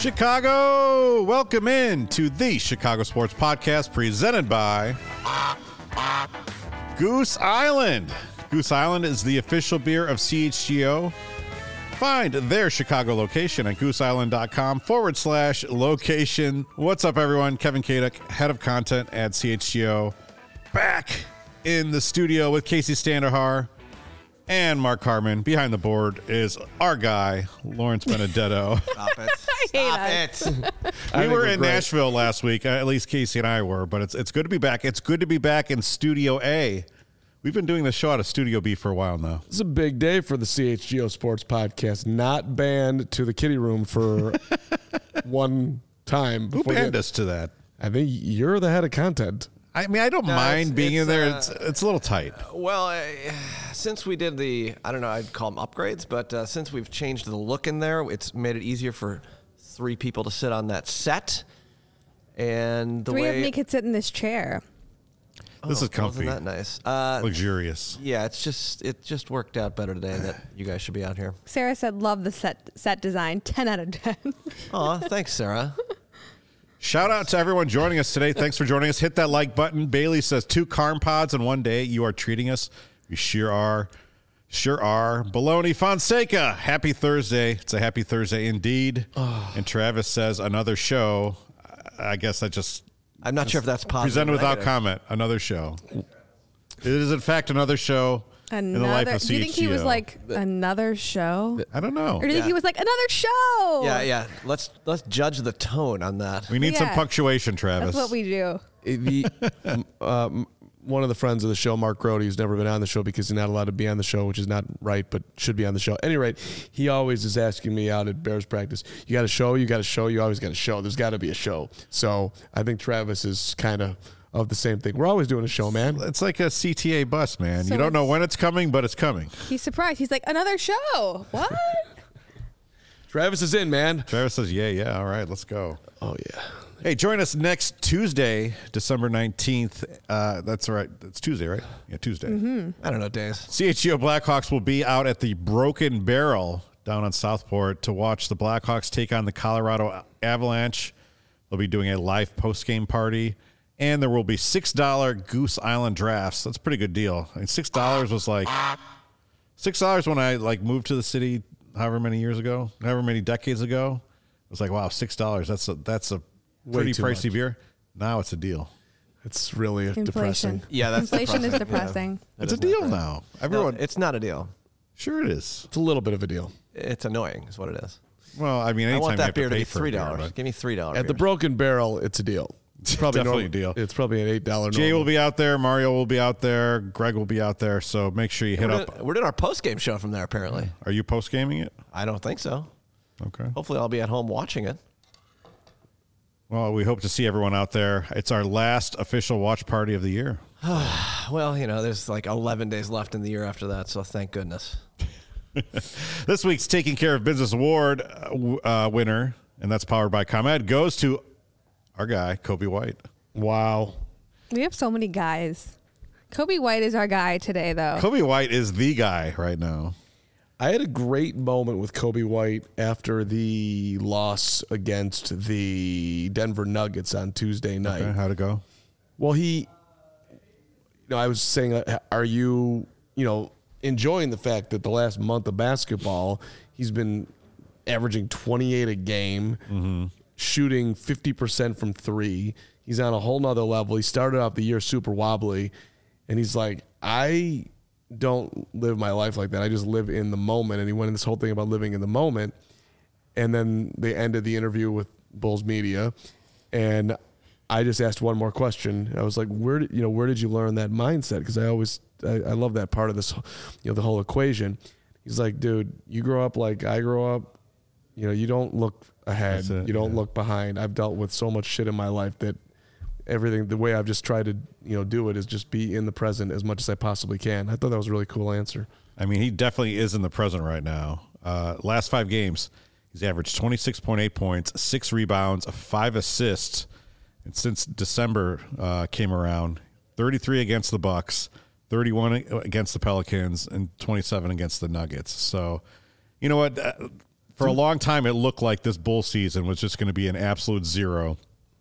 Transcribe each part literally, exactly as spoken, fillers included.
Chicago, welcome in to the Chicago Sports Podcast presented by Goose Island. Goose Island is the official beer of C H G O. Find their Chicago location at gooseisland.com forward slash location. What's up, everyone? Kevin Kaduk, head of content at C H G O, back in the studio with Casey Standahar and Mark Harmon. Behind the board is our guy, Lawrence Benedetto. Stop it. Stop it. We were in great. Nashville last week. At least Casey and I were, but it's it's good to be back. It's good to be back in Studio A. We've been doing this show out of Studio B for a while now. It's a big day for the C H G O Sports Podcast. Not banned to the kiddie room for one time. Who banned us to that? I think you're the head of content. I mean, I don't No, mind it's- being it's, in there. uh, It's it's a little tight. Well, uh, since we did the, I don't know, I'd call them upgrades, but uh, since we've changed the look in there, it's made it easier for three people to sit on that set. And the Three way of me could sit in this chair. This Oh, is comfy. Wasn't that nice? Uh, Luxurious. yeah, it's just it just worked out better today that you guys should be out here. Sarah said, love the set set design. ten out of ten. Aw, thanks, Sarah. Shout out to everyone joining us today. Thanks for joining us. Hit that like button. Bailey says two Carm Pods in one day. You are treating us. You sure are. Sure are. Baloney Fonseca. Happy Thursday. It's a happy Thursday indeed. And Travis says another show. I guess that just I'm not sure if that's positive. presented or without negative. comment. Another show. It is in fact another show in the life Another. of Do you think he was C H G O. like another show? I don't know. Or do you think Yeah. he was like another show? Yeah, yeah. Let's let's judge the tone on that. We need some Yeah. punctuation, Travis. That's what we do. The, um, one of the friends of the show, Mark Grody, who's never been on the show because he's not allowed to be on the show, which is not right, but should be on the show. At any rate, he always is asking me out at Bears practice, you got a show, you got a show, you always got a show. There's got to be a show. So I think Travis is kind of of the same thing. We're always doing a show, man. It's like a C T A bus, man. So you don't know it's- when it's coming, but it's coming. He's surprised. He's like, another show. What? Travis is in, man. Travis says, yeah, yeah, all right, let's go. Oh, yeah. Hey, join us next Tuesday, December nineteenth. Uh, that's right. It's Tuesday, right? Yeah, Tuesday. I don't know, days. C H G O Blackhawks will be out at the Broken Barrel down on Southport to watch the Blackhawks take on the Colorado Avalanche. They'll be doing a live post-game party, and there will be six dollars Goose Island drafts. That's a pretty good deal. I mean, six dollars was like six dollars when I like moved to the city however many years ago, however many decades ago. It was like, wow, six dollars. That's a that's a pretty too pricey much. beer. Now it's a deal. It's really Inflation. depressing. Yeah, that's Inflation is depressing. depressing. That It's a is not deal great. now. No, Everyone, it's not a deal. sure it is. It's a little bit of a deal. It's annoying, is what it is. Well, I mean, I anytime want you that have beer to pay be for a three beer, dollars. but- Give me three dollars. At the Broken Barrel, it's a deal. It's probably Definitely normal. a deal. It's probably an eight dollars Jay will be out there. Mario will be out there. Greg will be out there. So make sure you hit we're, up. doing, we're doing our post game show from there. Apparently, Are you post gaming it? I don't think so. Okay. Hopefully, I'll be at home watching it. Well, we hope to see everyone out there. It's our last official watch party of the year. Well, you know, there's like eleven days left in the year after that, so thank goodness. This week's Taking Care of Business Award uh, w- uh, winner, and that's powered by ComEd, goes to our guy, Kobe White. Wow. We have so many guys. Kobe White is our guy today, though. Kobe White is the guy right now. I had a great moment with Kobe White after the loss against the Denver Nuggets on Tuesday night. Okay, how'd it go? Well, he, you know, I was saying, uh, are you, you know, enjoying the fact that the last month of basketball, he's been averaging twenty-eight a game, Mm-hmm. shooting fifty percent from three. He's on a whole nother level. He started off the year super wobbly, and he's like, I don't live my life like that. I just live in the moment. And he went in this whole thing about living in the moment. And then they ended the interview with Bulls Media, and I just asked one more question. I was like, "Where did you know? Where did you learn that mindset?" Because I always, I, I love that part of this, you know, the whole equation. He's like, "Dude, you grow up like I grow up. You know, you don't look ahead. That's it, You don't yeah. look behind. I've dealt with so much shit in my life that everything, the way I've just tried to, you know, do it is just be in the present as much as I possibly can." I thought that was a really cool answer. I mean, he definitely is in the present right now. Uh, last five games, he's averaged twenty-six point eight points, six rebounds, five assists. And since December uh, came around, thirty-three against the Bucks, thirty-one against the Pelicans, and twenty-seven against the Nuggets. So, you know what? Uh, for a long time, it looked like this bull season was just going to be an absolute zero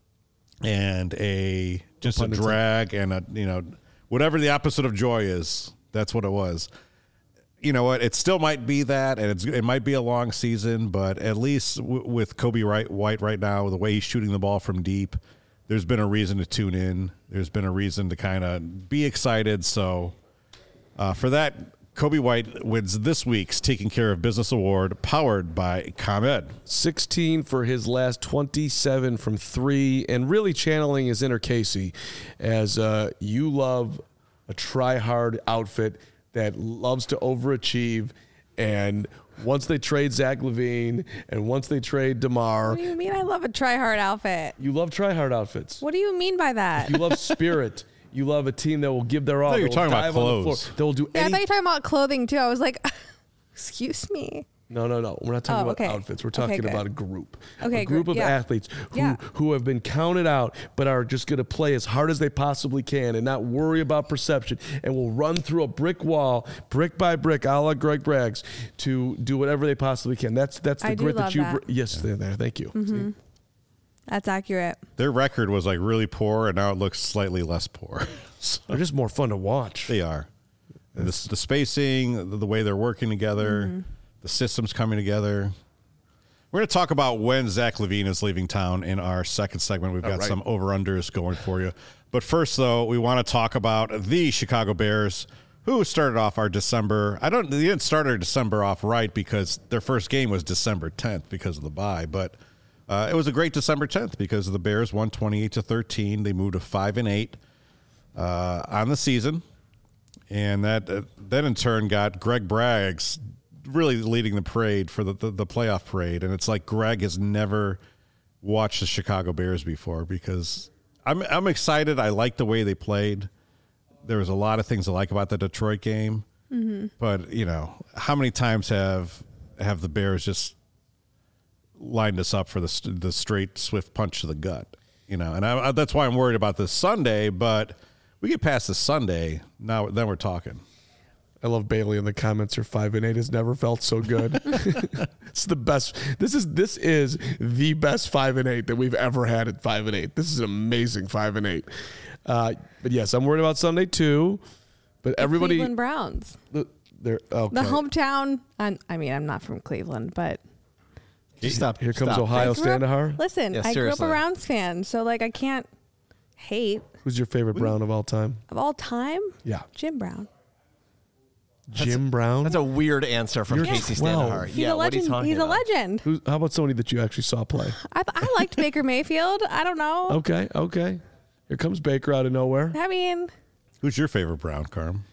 and a just a drag and a, you know, whatever the opposite of joy is, that's what it was. You know what? It still might be that, and it's, it might be a long season, but at least w- with Kobe Wright, White right now, the way he's shooting the ball from deep, there's been a reason to tune in. There's been a reason to kind of be excited. So uh, for that, Kobe White wins this week's Taking Care of Business Award, powered by ComEd. sixteen for his last twenty-seven from three, and really channeling his inner Casey, as uh, you love a try-hard outfit that loves to overachieve, and once they trade Zach LaVine, and once they trade DeMar, What do you mean I love a try-hard outfit? you love try-hard outfits. What do you mean by that? You love spirit. You love a team that will give their all. I thought you were that will talking about dive on the clothes. floor, that will do Yeah, I any. thought you were talking about clothing too. I was like, excuse me. No, no, no. We're not talking Oh, about okay. outfits. We're Okay, talking good. about a group. Okay, a group group, of yeah. athletes who, Yeah. who have been counted out but are just going to play as hard as they possibly can and not worry about perception, and will run through a brick wall, brick by brick, a la Greg Braggs, to do whatever they possibly can. That's that's the I do grit that love you. that. Br- yes, they're there. Thank you. Mm-hmm. See? That's accurate. Their record was like really poor, and now it looks slightly less poor. So They're just more fun to watch. they are. And the, the spacing, the, the way they're working together, Mm-hmm. the systems coming together. We're going to talk about when Zach LaVine is leaving town in our second segment. We've got right. some over-unders going for you. But first, though, we want to talk about the Chicago Bears, who started off our December. I don't. They didn't start our December off right because their first game was December tenth because of the bye. But uh, it was a great December tenth because the Bears won twenty-eight to thirteen. They moved to five and eight uh, on the season, and that uh, then in turn got Greg Braggs really leading the parade for the, the, the playoff parade. And it's like Greg has never watched the Chicago Bears before because I'm I'm excited. I like the way they played. There was a lot of things I like about the Detroit game. Mm-hmm. But, you know, how many times have have the Bears just lined us up for the the straight, swift punch to the gut? You know, and I, I, that's why I'm worried about this Sunday. But we get past this Sunday, now then we're talking. I love Bailey in the comments. Her five and eight has never felt so good. It's the best. This is this is the best five and eight that we've ever had at five and eight. This is an amazing five and eight. Uh, but yes, I'm worried about Sunday too. But everybody, Cleveland Browns. the, they're okay. The hometown. I'm, I mean, I'm not from Cleveland, but Stop. Here comes Stop. Ohio I grew up- Standahar. Listen, Yeah, I grew up seriously. a Browns fan, so like I can't hate Who's your favorite Brown of all time? of all time. Yeah, Jim Brown. Jim Brown. That's a weird answer from You're Casey twelve. Standahar. He's Yeah, a what are you legend. talking He's a about? legend. Who's, how about somebody that you actually saw play? I, I liked Baker Mayfield. I don't know. Okay, okay. Here comes Baker out of nowhere. I mean, Who's your favorite Brown, Carm?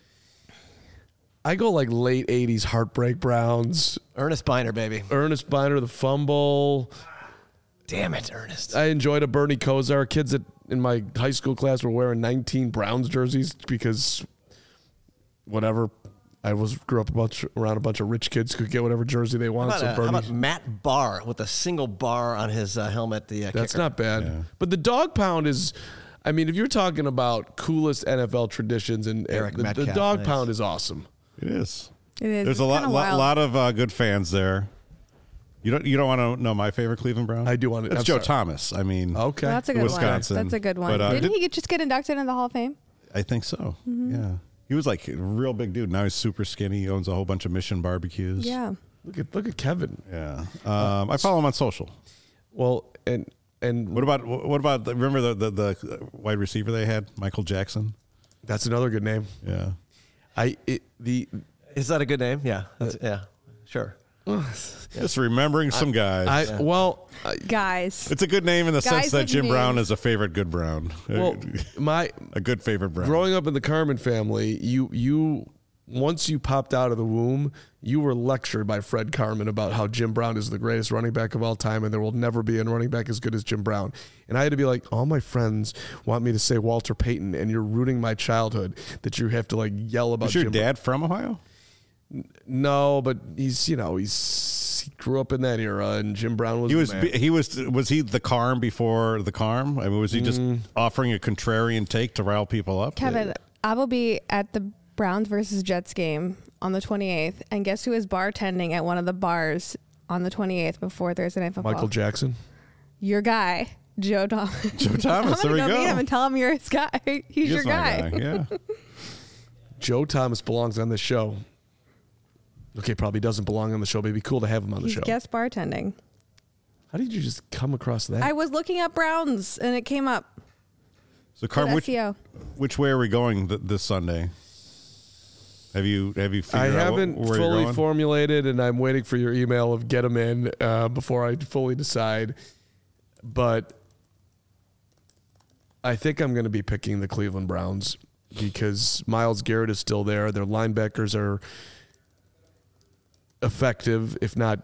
I go like late eighties Heartbreak Browns. Ernest Biner, baby. Ernest Biner, the fumble. Damn it, Ernest. I enjoyed a Bernie Kosar. Kids that in my high school class were wearing nineteen Browns jerseys because whatever. I was grew up a bunch, around a bunch of rich kids who could get whatever jersey they How want. about, So uh, how Bernie, about Matt Barr with a single bar on his uh, helmet? The uh, that's kicker. not bad. Yeah. But the dog pound is, I mean, if you're talking about coolest N F L traditions, and, and Eric the, the Metcalf, dog nice. pound is awesome. It is. it is. There's It's a lot, kinda lot, wild. lot of uh, good fans there. You don't, you don't want to know my favorite Cleveland Brown? I do want to- It's I'm Joe sorry. Thomas. I mean, Okay, Well, that's a good Wisconsin. one. That's a good one. But, uh, Didn't did- he get, just get inducted into the Hall of Fame? I think so. Mm-hmm. Yeah. He was like a real big dude. Now he's super skinny. He owns a whole bunch of Mission barbecues. Yeah. look at look at Kevin. Yeah. Um, I follow him on social. Well, and and What about what about the, remember the, the the wide receiver they had, Michael Jackson? that's another good name. Yeah. I it, the Is that a good name? Yeah. That's, yeah. Sure. Just remembering some guys. I well I, Guys. it's a good name in the sense Guys that with Jim names. Brown is a favorite good Brown. well my a good favorite Brown. growing up in the Carmen family, you you once you popped out of the womb, you were lectured by Fred Carmen about how Jim Brown is the greatest running back of all time, and there will never be a running back as good as Jim Brown. And I had to be like, all my friends want me to say Walter Payton, and you're ruining my childhood that you have to like yell about. Was your Jim dad from Ohio? No, but he's you know he's he grew up in that era, and Jim Brown was He the was man. he was was he the Carm before the Carm? I mean, was he just Mm. offering a contrarian take to rile people up? Kevin, I will be at the Browns versus Jets game on the twenty-eighth, and guess who is bartending at one of the bars on the twenty-eighth before Thursday Night Football. Michael Jackson. Your guy, Joe Thomas. Joe Thomas, there I'm we gonna go go. meet him and tell him you're his guy. He's He is your my guy. Yeah. Joe Thomas belongs on this show. Okay, probably doesn't belong on the show, but it'd be cool to have him on He's the show. guest bartending. How did you just come across that? I was looking up Browns and it came up. So, Carm, which, S E O. which way are we going th- this Sunday? Have you have you I figured out haven't wh- where you're fully going? formulated, and I'm waiting for your email of get them in uh, before I fully decide. But I think I'm going to be picking the Cleveland Browns because Myles Garrett is still there. Their linebackers are effective, if not,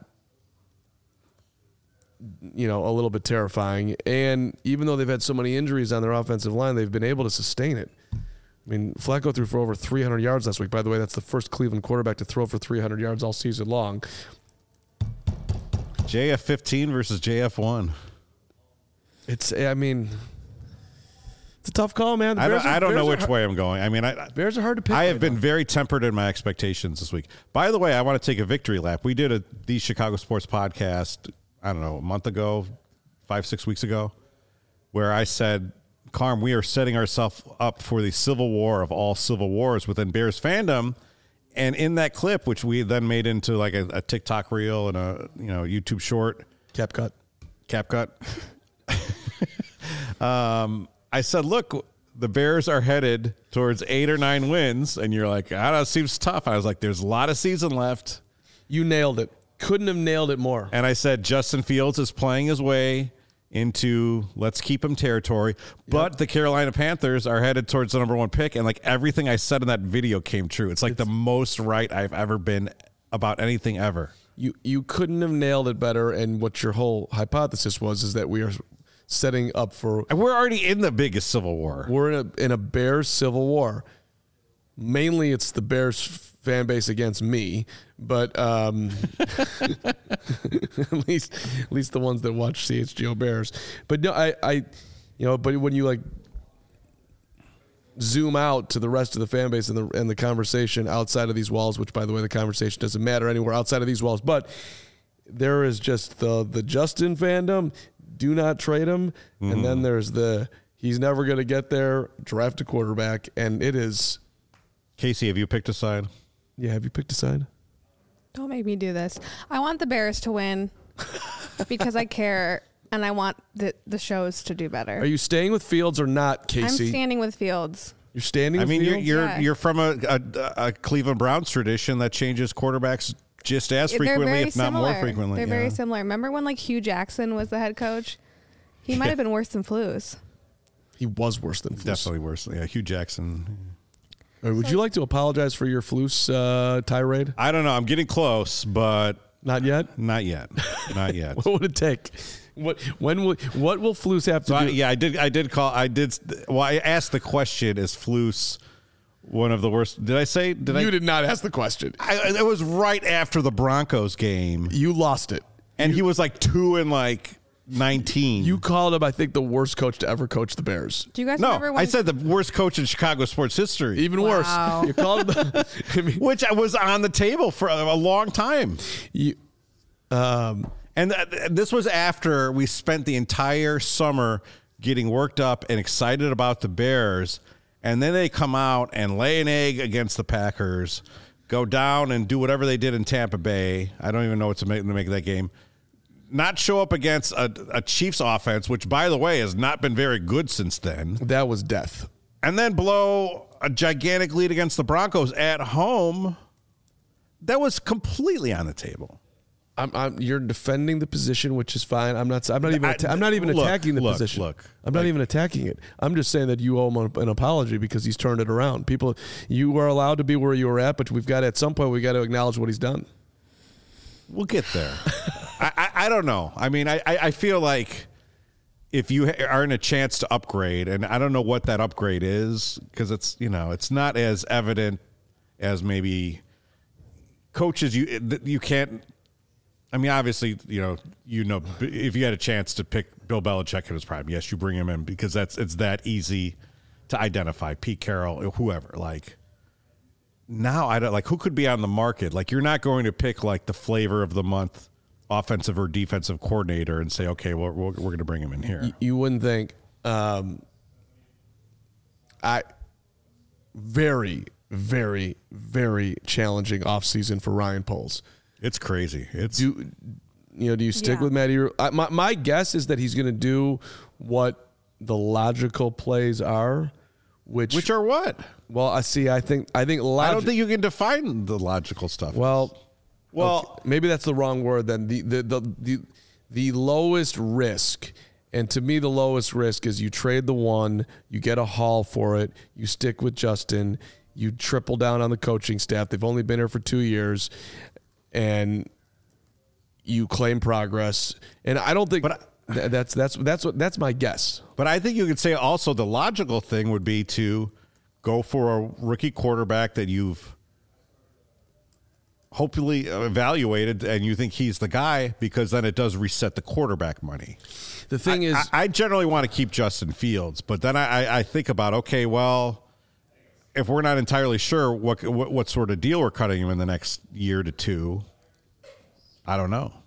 you know, a little bit terrifying. And even though they've had so many injuries on their offensive line, they've been able to sustain it. I mean, Flacco threw for over three hundred yards last week. By the way, that's the first Cleveland quarterback to throw for three hundred yards all season long. J F fifteen versus J F one. It's, I mean, it's a tough call, man. The I Bears don't, are- I don't Bears know are which hard- way I'm going. I mean, I Bears are hard to pick. I have right been now. very tempered in my expectations this week. By the way, I want to take a victory lap. We did a the Chicago Sports podcast, I don't know, a month ago, five, six weeks ago, where I said, Carm, we are setting ourselves up for the civil war of all civil wars within Bears fandom. And in that clip, which we then made into like a, a TikTok reel and a you know YouTube short, cap cut. cap cut. um, I said, look, the Bears are headed towards eight or nine wins. And you're like, I don't know, it seems tough. I was like, there's a lot of season left. You nailed it. Couldn't have nailed it more. And I said, Justin Fields is playing his way into let's keep him territory. But Yep. the Carolina Panthers are headed towards the number one pick. And like everything I said in that video came true. It's like It's- the most right I've ever been about anything ever. You you couldn't have nailed it better. And what your whole hypothesis was is that we are setting up for And we're already in the biggest civil war. we're in a in a Bears civil war. Mainly, it's the Bears fan base against me, but um, at least at least the ones that watch C H G O Bears. But no, I I you know, but when you like zoom out to the rest of the fan base and the and the conversation outside of these walls, which by the way, the conversation doesn't matter anywhere outside of these walls, but there is just the the Justin fandom. Do not trade him, Mm-hmm. and then there's the he's never going to get there. Draft a quarterback, and it is. Casey, have you picked a side? Yeah, have you picked a side? Don't make me do this. I want the Bears to win because I care and I want the, the shows to do better. Are you staying with Fields or not, I'm Casey? standing with Fields. You're standing. I with mean, you're Fields? you're, Yeah. you're from a, a a Cleveland Browns tradition that changes quarterbacks just as They're frequently, very if not similar. more frequently. They're yeah. very similar. Remember when like Hugh Jackson was the head coach? He might have been worse than Flus. He was worse than Flus. Definitely worse. Yeah, Hugh Jackson. Or would you like to apologize for your Flus uh, tirade? I don't know. I'm getting close, but Not yet. not yet. Not yet. What would it take? What when will what will Flus have to So I, do? yeah, I did. I did call. I did. Well, I asked the question: is Flus one of the worst? Did I say? Did you I? did not ask the question. I, it was right after the Broncos game, You lost it. and he was like two and like nineteen. You called him, I think, the worst coach to ever coach the Bears. Do you guys no, remember when I said the worst coach in Chicago sports history, Even Wow. worse. You called him. The, I mean, which I was on the table for a, a long time. you, um, And th- this was after we spent the entire summer getting worked up and excited about the Bears. And then they come out and lay an egg against the Packers, go down and do whatever they did in Tampa Bay. I don't even know what to make, to make of that game. Not show up against a, a Chiefs offense, which, by the way, has not been very good since then. that was death. And then blow a gigantic lead against the Broncos at home. That was completely on the table. I'm, I'm, you're defending the position, which is fine. I'm not. I'm not even. I- atta- I'm not even look, attacking the look, position. look. I'm not Like- even attacking it. I'm just saying that you owe him an apology because he's turned it around. People, you are allowed to be where you were at, but we've got at some point we got to acknowledge what he's done. We'll get there. I, I, I don't know. I mean, I, I I feel like if you ha- are in a chance to upgrade, and I don't know what that upgrade is because it's you know it's not as evident as maybe coaches. You you can't. I mean, obviously, you know, you know, if you had a chance to pick Bill Belichick in his prime, yes, you bring him in because that's it's that easy to identify. Pete Carroll, whoever, like. Now I don't like who could be on the market. Like you're not going to pick like the flavor of the month offensive or defensive coordinator and say, okay, well, we're, we're going to bring him in here. You, you wouldn't think. Um, I very, very, very challenging offseason for Ryan Poles. It's crazy. It's Do you know? Do you stick Yeah. with Matty? I, my my guess is that he's going to do what the logical plays are, which which are what? well, I see. I think I think I logic, don't think you can define the logical stuff. Well, well, okay, maybe that's the wrong word. Then the the the the, the lowest risk. And to me, the lowest risk is you trade the one, you get a haul for it, you stick with Justin, you triple down on the coaching staff. They've only been here for two years, and you claim progress. And I don't think But th- that's that's that's what that's my guess. But I think you could say also the logical thing would be to go for a rookie quarterback that you've hopefully evaluated and you think he's the guy, because then it does reset the quarterback money. The thing I, is, I, I generally want to keep Justin Fields, but then I, I think about, okay, well, if we're not entirely sure what, what what sort of deal we're cutting him in the next year to two, I don't know.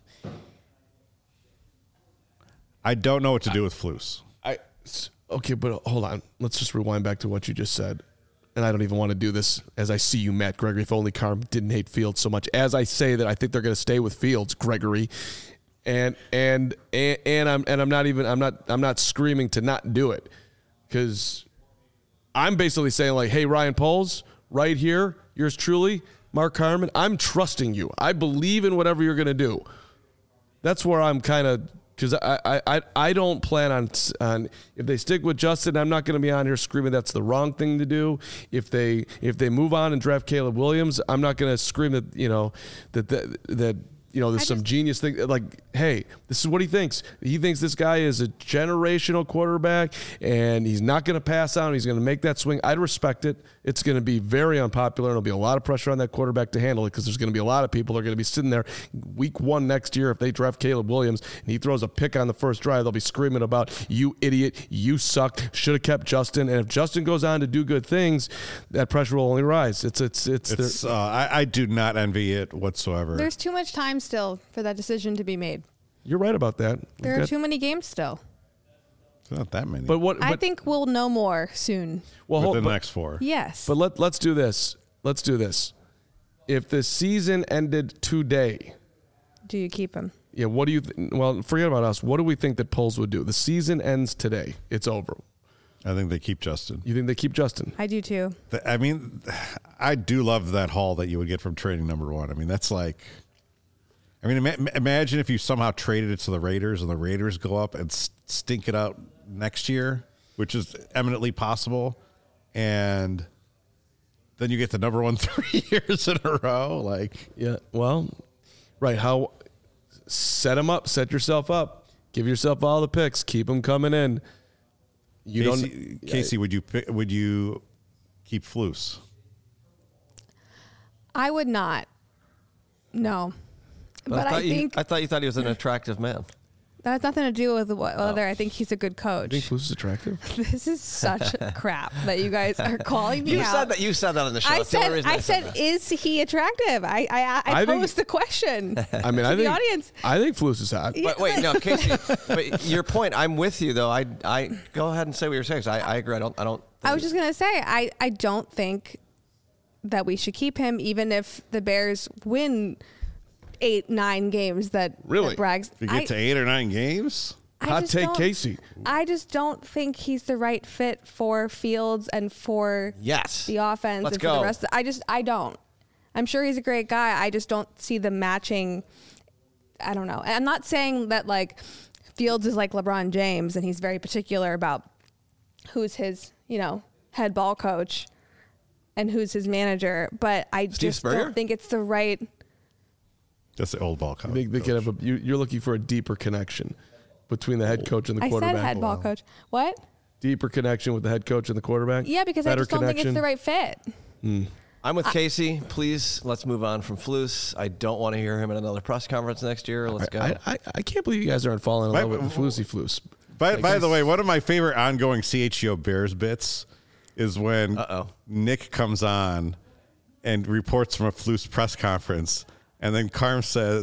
I don't know what to do with Flus. I okay, but hold on. Let's just rewind back to what you just said. And I don't even want to do this as I see you, Matt Gregory. If only Carm didn't hate Fields so much. As I say that I think they're going to stay with Fields, Gregory. And and and, and I'm and I'm not even I'm not I'm not screaming to not do it, because I'm basically saying, like, hey, Ryan Poles, right here, yours truly, Mark Carman, I'm trusting you. I believe in whatever you're going to do. That's where I'm kind of, because I, I, I don't plan on, on, if they stick with Justin, I'm not going to be on here screaming that's the wrong thing to do. If they if they move on and draft Caleb Williams, I'm not going to scream that, you know, that that, that you know, there's I some just- genius thing. Like, hey, this is what he thinks. He thinks this guy is a generational quarterback, and he's not going to pass out. He's going to make that swing. I'd respect it. It's going to be very unpopular, and there'll be a lot of pressure on that quarterback to handle it, because there's going to be a lot of people that are going to be sitting there week one next year if they draft Caleb Williams and he throws a pick on the first drive. They'll be screaming about, you idiot, you suck, should have kept Justin. And if Justin goes on to do good things, that pressure will only rise. It's it's it's, It's, uh, I, I do not envy it whatsoever. There's too much time still for that decision to be made. You're right about that. There We've are got- too many games still. It's not that many. But what? I but- think we'll know more soon. well, hold- within the but- next four. Yes. But let, let's do this. Let's do this. If the season ended today, Do you keep him? yeah, what do you th- well, forget about us. What do we think that Poles would do? The season ends today. It's over. I think they keep Justin. You think they keep Justin? I do too. Th- I mean, I do love that haul that you would get from trading number one. I mean, that's like, I mean, ima- imagine if you somehow traded it to the Raiders and the Raiders go up and s- stink it out next year, which is eminently possible. And then you get the number one three years in a row. Like, Yeah. Well, right. How set them up, set yourself up, give yourself all the picks, keep them coming in. You Casey, don't Casey, would you pick, would you keep Flus? I would not. No. But I, thought you, think I thought you thought he was an attractive man. that has nothing to do with what- whether I think he's a good I think coach. Flus is attractive. This is such crap that you guys are calling me You out. said that. You said that on the show. I That's the only said, reason I said, that. is he attractive? I, I, I, I think- posed the question. I mean, I the think audience. I think Flus is hot. But wait, no, Casey. But your point, I'm with you though. I, I go ahead and say what you're saying. 'cause I, I agree. I don't, I don't. I was just gonna say, I, I don't think that we should keep him, even if the Bears win eight, nine games. That Really? that brags. If you get I, to eight or nine games? I Hot just take, don't- Casey. I just don't think he's the right fit for Fields and for Yes. the offense Let's and for go. the rest. Of, I just I don't. I'm sure he's a great guy. I just don't see the matching. I don't know. And I'm not saying that like Fields is like LeBron James and he's very particular about who's his, you know, head ball coach and who's his manager, but I Steve just Spurrier? don't think it's the right. That's the old ball coach. They, they could have a, you, you're looking for a deeper connection between the head coach and the I quarterback. said head ball coach. What? Deeper connection with the head coach and the quarterback. Yeah, because I Better just don't think it's connection. the right fit. I'm with Casey. Please, let's move on from Flus. I don't want to hear him at another press conference next year. Let's go. I, I, I can't believe you guys aren't falling in By- love with the Flusy Flus. By, Like, by I- the way, one of my favorite ongoing C H G O Bears bits is when Uh-oh. Nick comes on and reports from a Flus press conference, and then Carm says,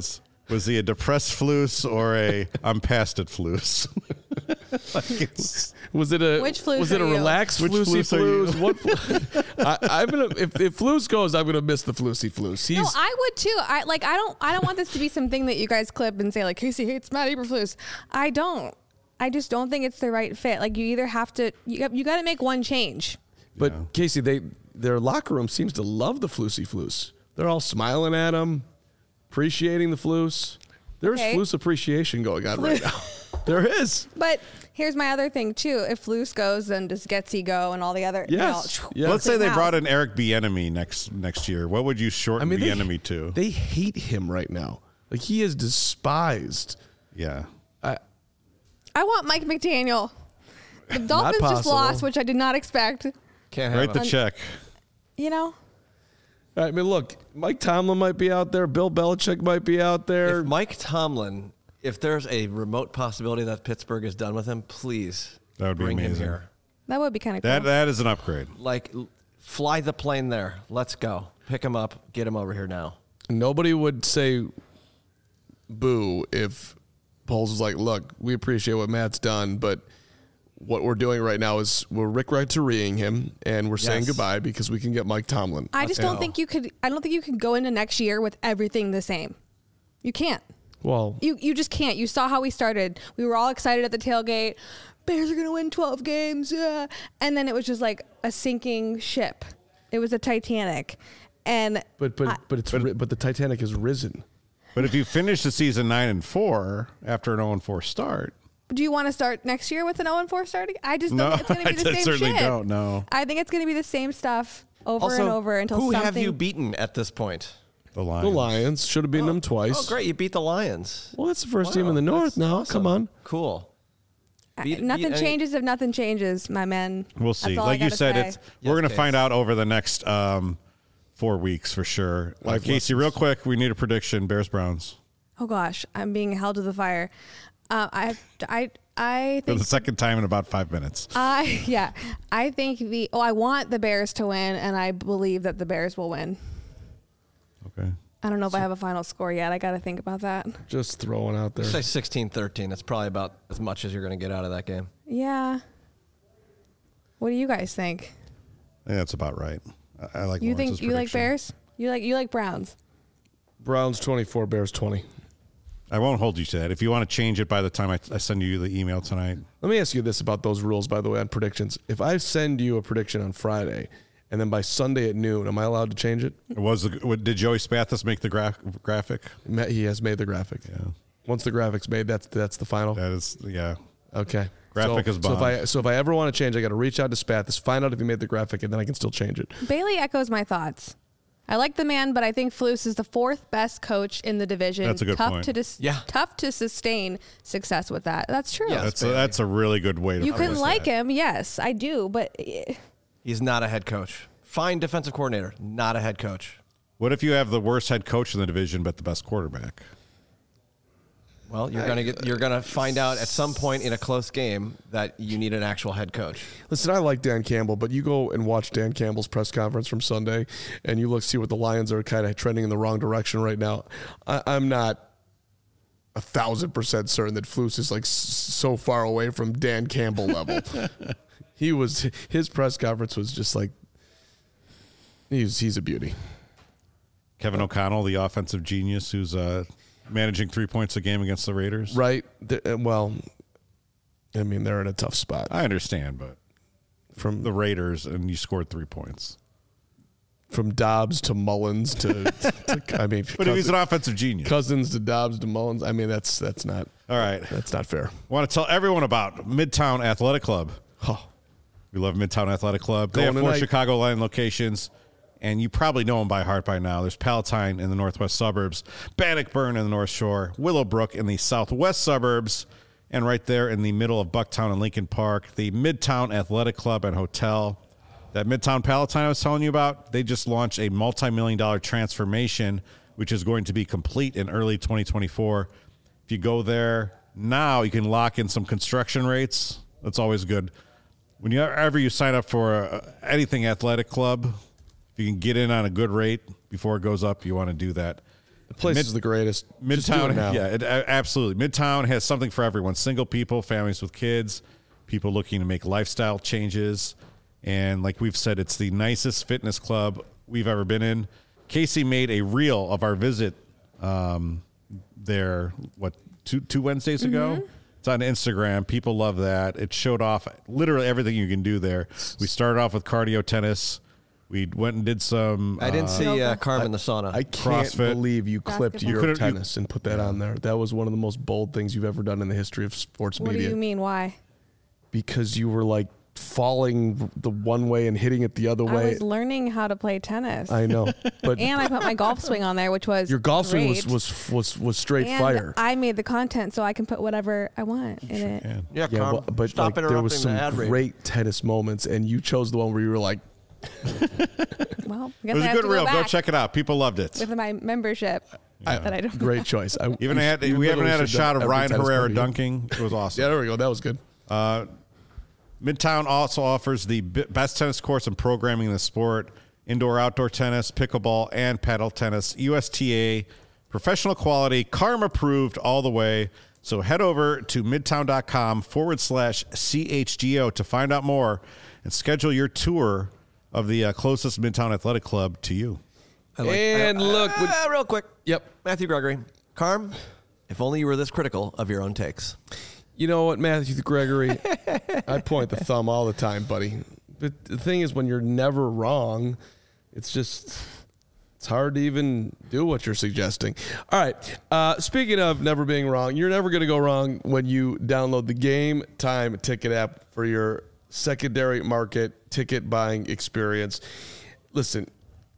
Was he a depressed Flus or a I'm past it Flus? Like it's, Was it a Which Flus was it a are you? relaxed Which Flusy Flus are you? Flus? What? Flu- I, I'm gonna if if Flus goes, I'm gonna miss the Flusy Flus. He's No, I would too. I like. I don't. I don't want this to be something that you guys clip and say like Casey hates Matt Eberflus. I don't. I just don't think it's the right fit. Like you either have to. You got, you got to make one change. but Yeah. Casey, they their locker room seems to love the Flusy Flus. They're all smiling at him, appreciating the Flus. There's Okay. Flus appreciation going on right now. There is. But here's my other thing too. If Flus goes, then does Getsy go and all the other? Yes. You know, Yeah. Let's say they Wow. brought in Eric Bieniemy next next year. What would you shorten they, Bieniemy to? they hate him right now. Like he is despised. yeah. I, I want Mike McDaniel. The Dolphins just possible. lost, which I did not expect. Can't have Write the him. check. You know. I mean, look, Mike Tomlin might be out there. Bill Belichick might be out there. If Mike Tomlin, if there's a remote possibility that Pittsburgh is done with him, please That would be bring him amazing. here. That would be kind of cool. That that is an upgrade. Like, l- fly the plane there. Let's go. Pick him up. Get him over here now. Nobody would say boo if Poles was like, look, we appreciate what Matt's done, but what we're doing right now is we're Rick Renterieing him and we're saying Yes. goodbye because we can get Mike Tomlin. I just Let's don't go. think you could. I don't think you could go into next year with everything the same. You can't. Well, You you just can't. You saw how we started. We were all excited at the tailgate. Bears are going to win twelve games. Yeah. And then it was just like a sinking ship. It was a Titanic. And but but I- but it's ri- but the Titanic has risen. But if you finish the season nine and four after an zero and four start, do you want to start next year with an oh and four starting? I just No, don't think it's going to be the I same certainly shit. don't, no. I think it's going to be the same stuff over Also, and over until who something. have you beaten at this point? the Lions. The Lions should have beaten them twice. Oh, great. You beat the Lions. Well, that's the first team Wow, in the North that's now. awesome. Come on. Cool. I- Beat- nothing beat any- changes if nothing changes, my man. We'll That's see. all I Like you gotta said, say. it's Yes, we're going to Case. find out over the next um, four weeks for sure. Uh, Life Casey, lessons. real quick, we need a prediction. Bears Browns Oh gosh, I'm being held to the fire. Uh, I I I for think the second time in about five minutes. I yeah I think the oh I want the Bears to win, and I believe that the Bears will win. Okay. I don't know if I have a final score yet. I got to think about that. Just throwing out there. Say sixteen thirteen. That's probably about as much as you're going to get out of that game. Yeah. What do you guys think? I think that's about right. I, I like. You Lawrence's think you like prediction. Bears? You like you like Browns? Browns twenty-four, Bears twenty. I won't hold you to that. If you want to change it by the time I, I send you the email tonight, Let me ask you this about those rules, by the way, on predictions. If I send you a prediction on Friday, and then by Sunday at noon, am I allowed to change it? was the, what, did Joey Spathis make the graph, graphic? Ma- He has made the graphic. Yeah, Once the graphic's made, that's that's the final. that is yeah. Okay. Graphic so, is so if bond. I so if I ever want to change, I got to reach out to Spathis, find out if he made the graphic, and then I can still change it. Bailey echoes my thoughts. I like the man, but I think Flus is the fourth best coach in the division. That's a good tough point. To dis- Yeah. Tough to sustain success with that. That's true. Yeah. That's a, Bailey. that's a really good way to. You phrase can like that. him, yes, I do, but eh, He's not a head coach. Fine defensive coordinator, not a head coach. What if you have the worst head coach in the division but the best quarterback? Well, you're gonna get you're gonna find out at some point in a close game that you need an actual head coach. Listen, I like Dan Campbell, but you go and watch Dan Campbell's press conference from Sunday, and you look see what the Lions are kind of trending in the wrong direction right now. I, I'm not a thousand percent certain that Flus is like s- so far away from Dan Campbell level. He was his press conference was just like he's he's a beauty. Kevin O'Connell, the offensive genius, who's uh, managing three points a game against the Raiders. Right. The- uh, well, I mean, they're in a tough spot. I understand, but From the Raiders, and you scored three points. from Dobbs to Mullins to, to I mean, But if he's Cousins, an offensive genius. Cousins to Dobbs to Mullins. I mean, that's that's not All right. that's not fair. I want to tell everyone about Midtown Athletic Club. Oh, We love Midtown Athletic Club. They Going have four tonight. Chicagoland locations, and you probably know them by heart by now. There's Palatine in the northwest suburbs, Bannockburn in the North Shore, Willowbrook in the southwest suburbs, and right there in the middle of Bucktown and Lincoln Park, the Midtown Athletic Club and Hotel. That Midtown Palatine I was telling you about, they just launched a multi-million dollar transformation, which is going to be complete in early twenty twenty-four. If you go there now, you can lock in some construction rates. That's always good. Whenever you sign up for uh, anything athletic club, if you can get in on a good rate before it goes up, you want to do that. The place Mid- is the greatest. Just do it Midtown, now. yeah, it, uh, absolutely. Midtown has something for everyone: single people, families with kids, people looking to make lifestyle changes, and like we've said, it's the nicest fitness club we've ever been in. Casey made a reel of our visit um, there. What two two Wednesdays ago? It's on Instagram. People love that. It showed off literally everything you can do there. We started off with cardio tennis. We went and did some. I didn't uh, see uh, Yoga. Carmen the sauna. I can't CrossFit. believe you clipped Basketball. your You could've- you- tennis and put that on there. That was one of the most bold things you've ever done in the history of sports What do media. you mean? Why? Because you were like falling the one way and hitting it the other I way. was learning how to play tennis. I know, but and I put my golf swing on there, which was your golf swing was great. was was was straight and fire. I made the content so I can put whatever I want in it. and yeah, yeah, Carm, well, but stop like, there interrupting was some the ad read. great tennis moments, and you chose the one where you were like, Well, I It guess was I a have good to reel. go, Go back check it out. People loved it. with my membership that I don't. great choice. I, Even we had should- we haven't literally had a should have shot of every Ryan tennis Herrera party. dunking. It was awesome. Yeah, there we go. That was good. Midtown also offers the b- best tennis courts and programming in the sport: indoor, outdoor tennis, pickleball, and paddle tennis. U S T A, professional quality, C A R M approved all the way. So head over to midtown.com forward slash CHGO to find out more and schedule your tour of the uh, closest Midtown Athletic Club to you. I like- And I- look, uh, with- real quick. Yep. Matthew Gregory. Carm, if only you were this critical of your own takes. You know what, Matthew Gregory? I point the thumb all the time, buddy. But the thing is, when you're never wrong, it's just it's hard to even do what you're suggesting. All right. Uh, speaking of never being wrong, you're never going to go wrong when you download the Game Time ticket app for your secondary market ticket buying experience. Listen,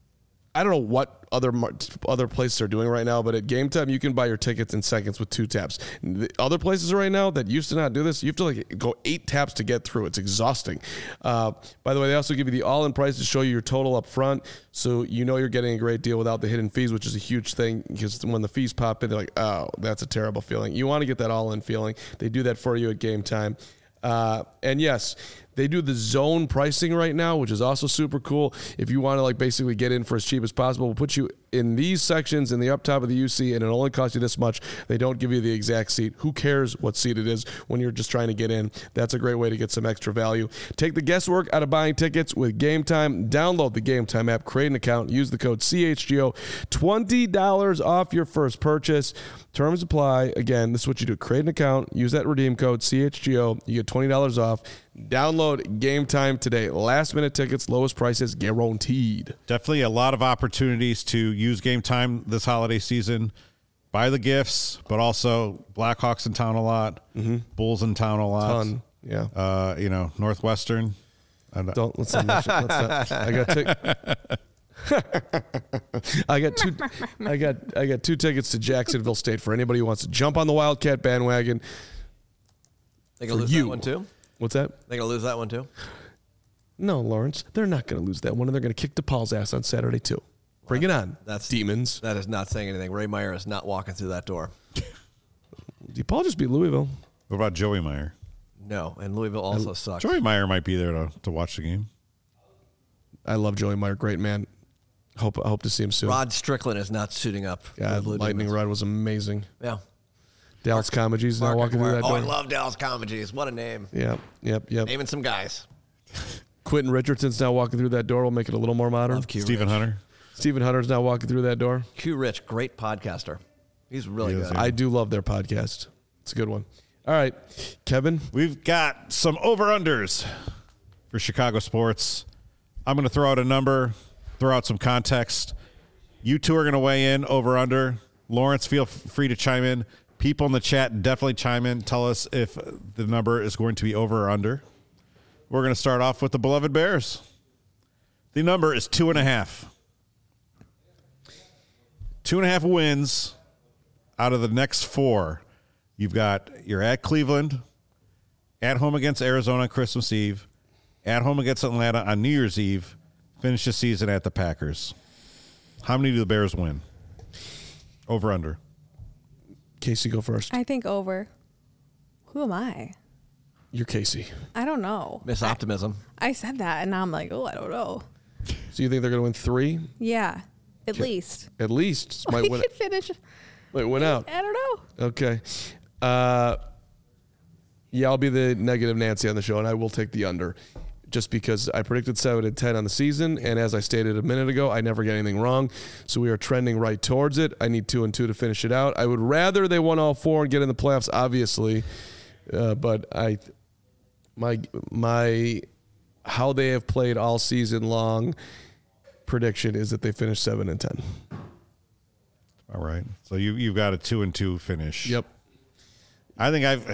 I don't know what other mar- other places are doing right now, but at Game Time, you can buy your tickets in seconds with two taps. The other places right now that used to not do this, you have to like go eight taps to get through. It's exhausting. Uh, by the way, they also give you the all-in price to show you your total up front, so you know you're getting a great deal without the hidden fees, which is a huge thing, because when the fees pop in, they're like, oh, that's a terrible feeling. You want to get that all-in feeling. They do that for you at Game Time. Uh, and yes, they do the zone pricing right now, which is also super cool. If you want to like basically get in for as cheap as possible, we'll put you in these sections in the up top of the U C, and it only costs you this much. They don't give you the exact seat. Who cares what seat it is when you're just trying to get in? That's a great way to get some extra value. Take the guesswork out of buying tickets with Game Time. Download the Game Time app, create an account, use the code C H G O. twenty dollars off your first purchase. Terms apply. Again, this is what you do. Create an account, use that redeem code C H G O. You get twenty dollars off. Download Game Time today. Last minute tickets, lowest prices guaranteed. Definitely a lot of opportunities to use Game Time this holiday season. Buy the gifts, but also Blackhawks in town a lot, mm-hmm. Bulls in town a lot. Ton. Yeah. Uh, you know, Northwestern. I don't- Don't let's not mention. Let's not. I got tick. I got two. I got. I got two tickets to Jacksonville State for anybody who wants to jump on the Wildcat bandwagon. They gonna For lose you. that one too? What's that? They gonna lose that one too? No, Lawrence. They're not going to lose that one, and they're going to kick DePaul's ass on Saturday too. Bring it on. That's Demons. That is not saying anything. Ray Meyer is not walking through that door. DePaul just beat Louisville. What about Joey Meyer? No, and Louisville also sucks. Joey Meyer might be there to, to watch the game. I love Joey Meyer. Great man. Hope I hope to see him soon. Rod Strickland is not suiting up. for God, the Blue Lightning Demons. Rod was amazing. Yeah. Dallas Comegys is now Mark walking through Aguirre. that Oh, door. I love Dallas Comegys. What a name. Yep, yep, yep. Naming some guys. Quentin Richardson's now walking through that door. We'll make it a little more modern. Love Q Stephen Rich. Hunter. Stephen Hunter's now walking through that door. Q Rich, great podcaster. He's really He is, good. yeah. I do love their podcast. It's a good one. All right, Kevin. We've got some over-unders for Chicago sports. I'm going to throw out a number, throw out some context. You two are going to weigh in over-under. Lawrence, feel f- free to chime in. People in the chat, definitely chime in. Tell us if the number is going to be over or under. We're going to start off with the beloved Bears. The number is two and a half. Two and a half wins out of the next four. You've got, you're at Cleveland, at home against Arizona on Christmas Eve, at home against Atlanta on New Year's Eve, finish the season at the Packers. How many do the Bears win? Over, under. Casey, go first. I think over. Who am I? You're Casey. I don't know. Miss Optimism. I said that, and now I'm like, oh, I don't know. So you think they're going to win three? Yeah. At least. At least might We win. could finish. Might win out. I don't know. Okay. Uh, yeah, I'll be the negative Nancy on the show, and I will take the under, just because I predicted seven and ten on the season, and as I stated a minute ago, I never get anything wrong. So we are trending right towards it. I need two and two to finish it out. I would rather they won all four and get in the playoffs, obviously, uh, but I, my my, how they have played all season long, prediction is that they finish seven and ten. All right. So you you've got a two and two finish. Yep. I think I've.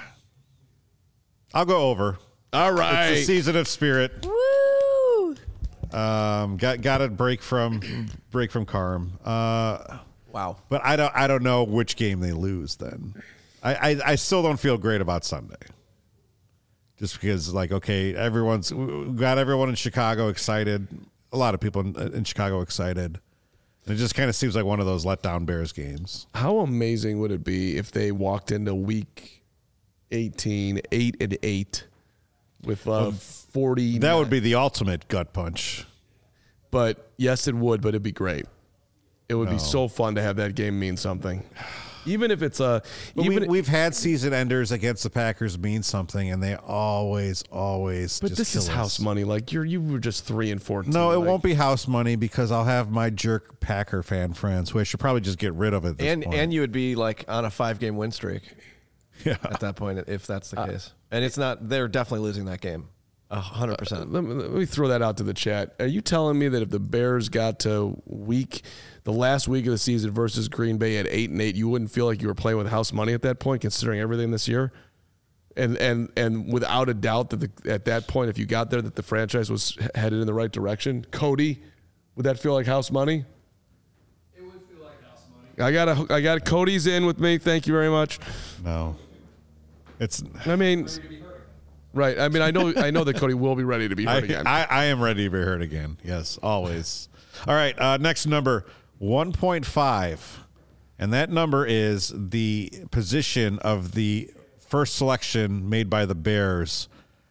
I'll go over. All right. It's a season of spirit. Woo! Um, got got a break from break from Carm. Uh, Wow. but I don't I don't know which game they lose. Then I, I I still don't feel great about Sunday. Just because, like, okay, everyone's we got everyone in Chicago excited. A lot of people in, in Chicago excited. And it just kind of seems like one of those letdown Bears games. How amazing would it be if they walked into week eighteen, eight and eight with uh, forty? That would be the ultimate gut punch. But yes, it would, but it'd be great. It would No. be so fun to have that game mean something. Even if it's a, But even we, we've had season enders against the Packers mean something, and they always, always. but just this is kill house us. money. Like you're, you were just three and fourteen. No, it like, won't be house money because I'll have my jerk Packer fan friends who I should probably just get rid of at this And point. and you would be like on a five game win streak yeah. at that point if that's the case. And it's not. They're definitely losing that game. A hundred percent. Let me, let me throw that out to the chat. Are you telling me that if the Bears got to week, the last week of the season versus Green Bay at eight and eight, you wouldn't feel like you were playing with house money at that point, considering everything this year? And and and without a doubt that the, at that point, if you got there, that the franchise was headed in the right direction. Cody, would that feel like house money? It would feel like house money. I got a, I got Cody's in with me. Thank you very much. No. It's. I mean, right. I mean, I know I know that Cody will be ready to be I, hurt again. I, I am ready to be hurt again. Yes, always. All right. Uh, next number one point five. And that number is the position of the first selection made by the Bears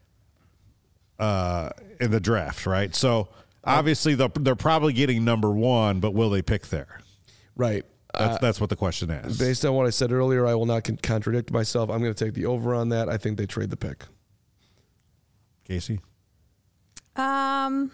uh, in the draft, right? So obviously they're, they're probably getting number one, but will they pick there? right. That's, that's what the question is. Based on what I said earlier, I will not con- contradict myself. I'm going to take the over on that. I think they trade the pick. Casey? Um,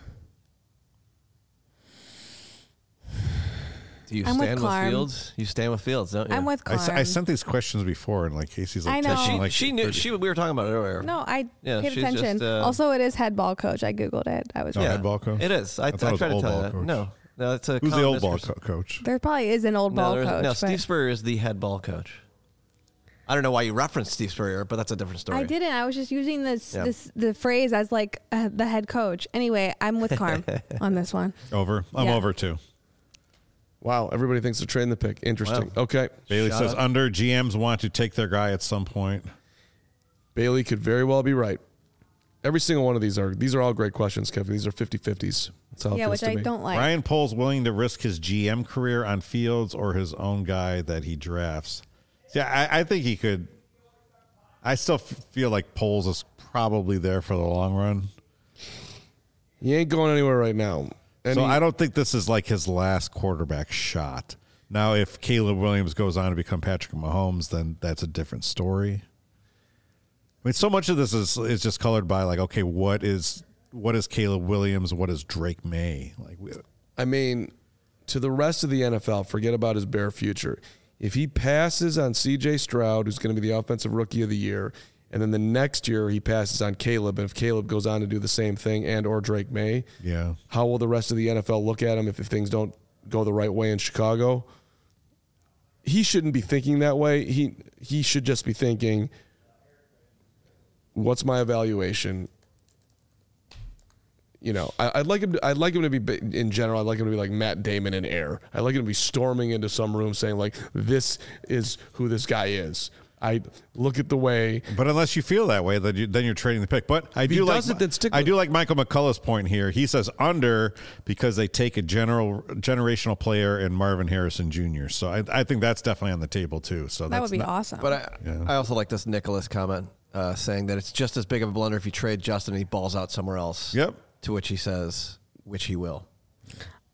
Do you I'm with stand with, Clarm. Fields? You stand with Fields, don't you? I'm with I, s- Carm. I sent these questions before, and like Casey's like, I know. texting, She, like she knew. She we were talking about it earlier. No, I Yeah, paid she's attention. just, uh, also, it is head ball coach. I googled it. I was Oh, right. head ball coach? It is. I, I, thought it was tried to old tell ball you that. coach. No, no, it's a. Who's the common old ball misconception. co- coach? There probably is an old No, ball there's- coach. no. but Steve Spurrier is the head ball coach. I don't know why you referenced Steve Spurrier, but that's a different story. I didn't. I was just using this Yeah. this the phrase as like uh, the head coach. Anyway, I'm with Carm on this one. Over. I'm Yeah. over too. Wow, everybody thinks they're trading the pick. Interesting. Wow. Okay. Bailey Shout says out. under. G Ms want to take their guy at some point. Bailey could very well be right. Every single one of these are these are all great questions, Kevin. These are fifty-fifties. That's how it Yeah, feels which to I me. don't like. Ryan Pohl's willing to risk his G M career on Fields or his own guy that he drafts. Yeah, I, I think he could. I still f- feel like Pohl's is probably there for the long run. He ain't going anywhere right now. And so he- I don't think this is like his last quarterback shot. Now, if Caleb Williams goes on to become Patrick Mahomes, then that's a different story. I mean, so much of this is is just colored by like, okay, what is what is Caleb Williams? What is Drake May? Like, we, I mean, to the rest of the N F L, forget about his bare future. If he passes on C J Stroud, who's going to be the offensive rookie of the year, and then the next year he passes on Caleb, and if Caleb goes on to do the same thing and or Drake May, yeah. how will the rest of the N F L look at him if, if things don't go the right way in Chicago? He shouldn't be thinking that way. He he should just be thinking, what's my evaluation? You know, I, I'd like him. To, I'd like him to be in general. I'd like him to be like Matt Damon in Air. I'd like him to be storming into some room saying like, "This is who this guy is." I look at the way. But unless you feel that way, then you then you're trading the pick. But I he do like does it, then stick I with do it. like Michael McCullough's point here. He says under because they take a general generational player in Marvin Harrison Junior So I, I think that's definitely on the table too. So That that's would be not, awesome. But I, Yeah. I also like this Nicholas comment uh, saying that it's just as big of a blunder if you trade Justin and he balls out somewhere else. Yep. To which he says, which he will.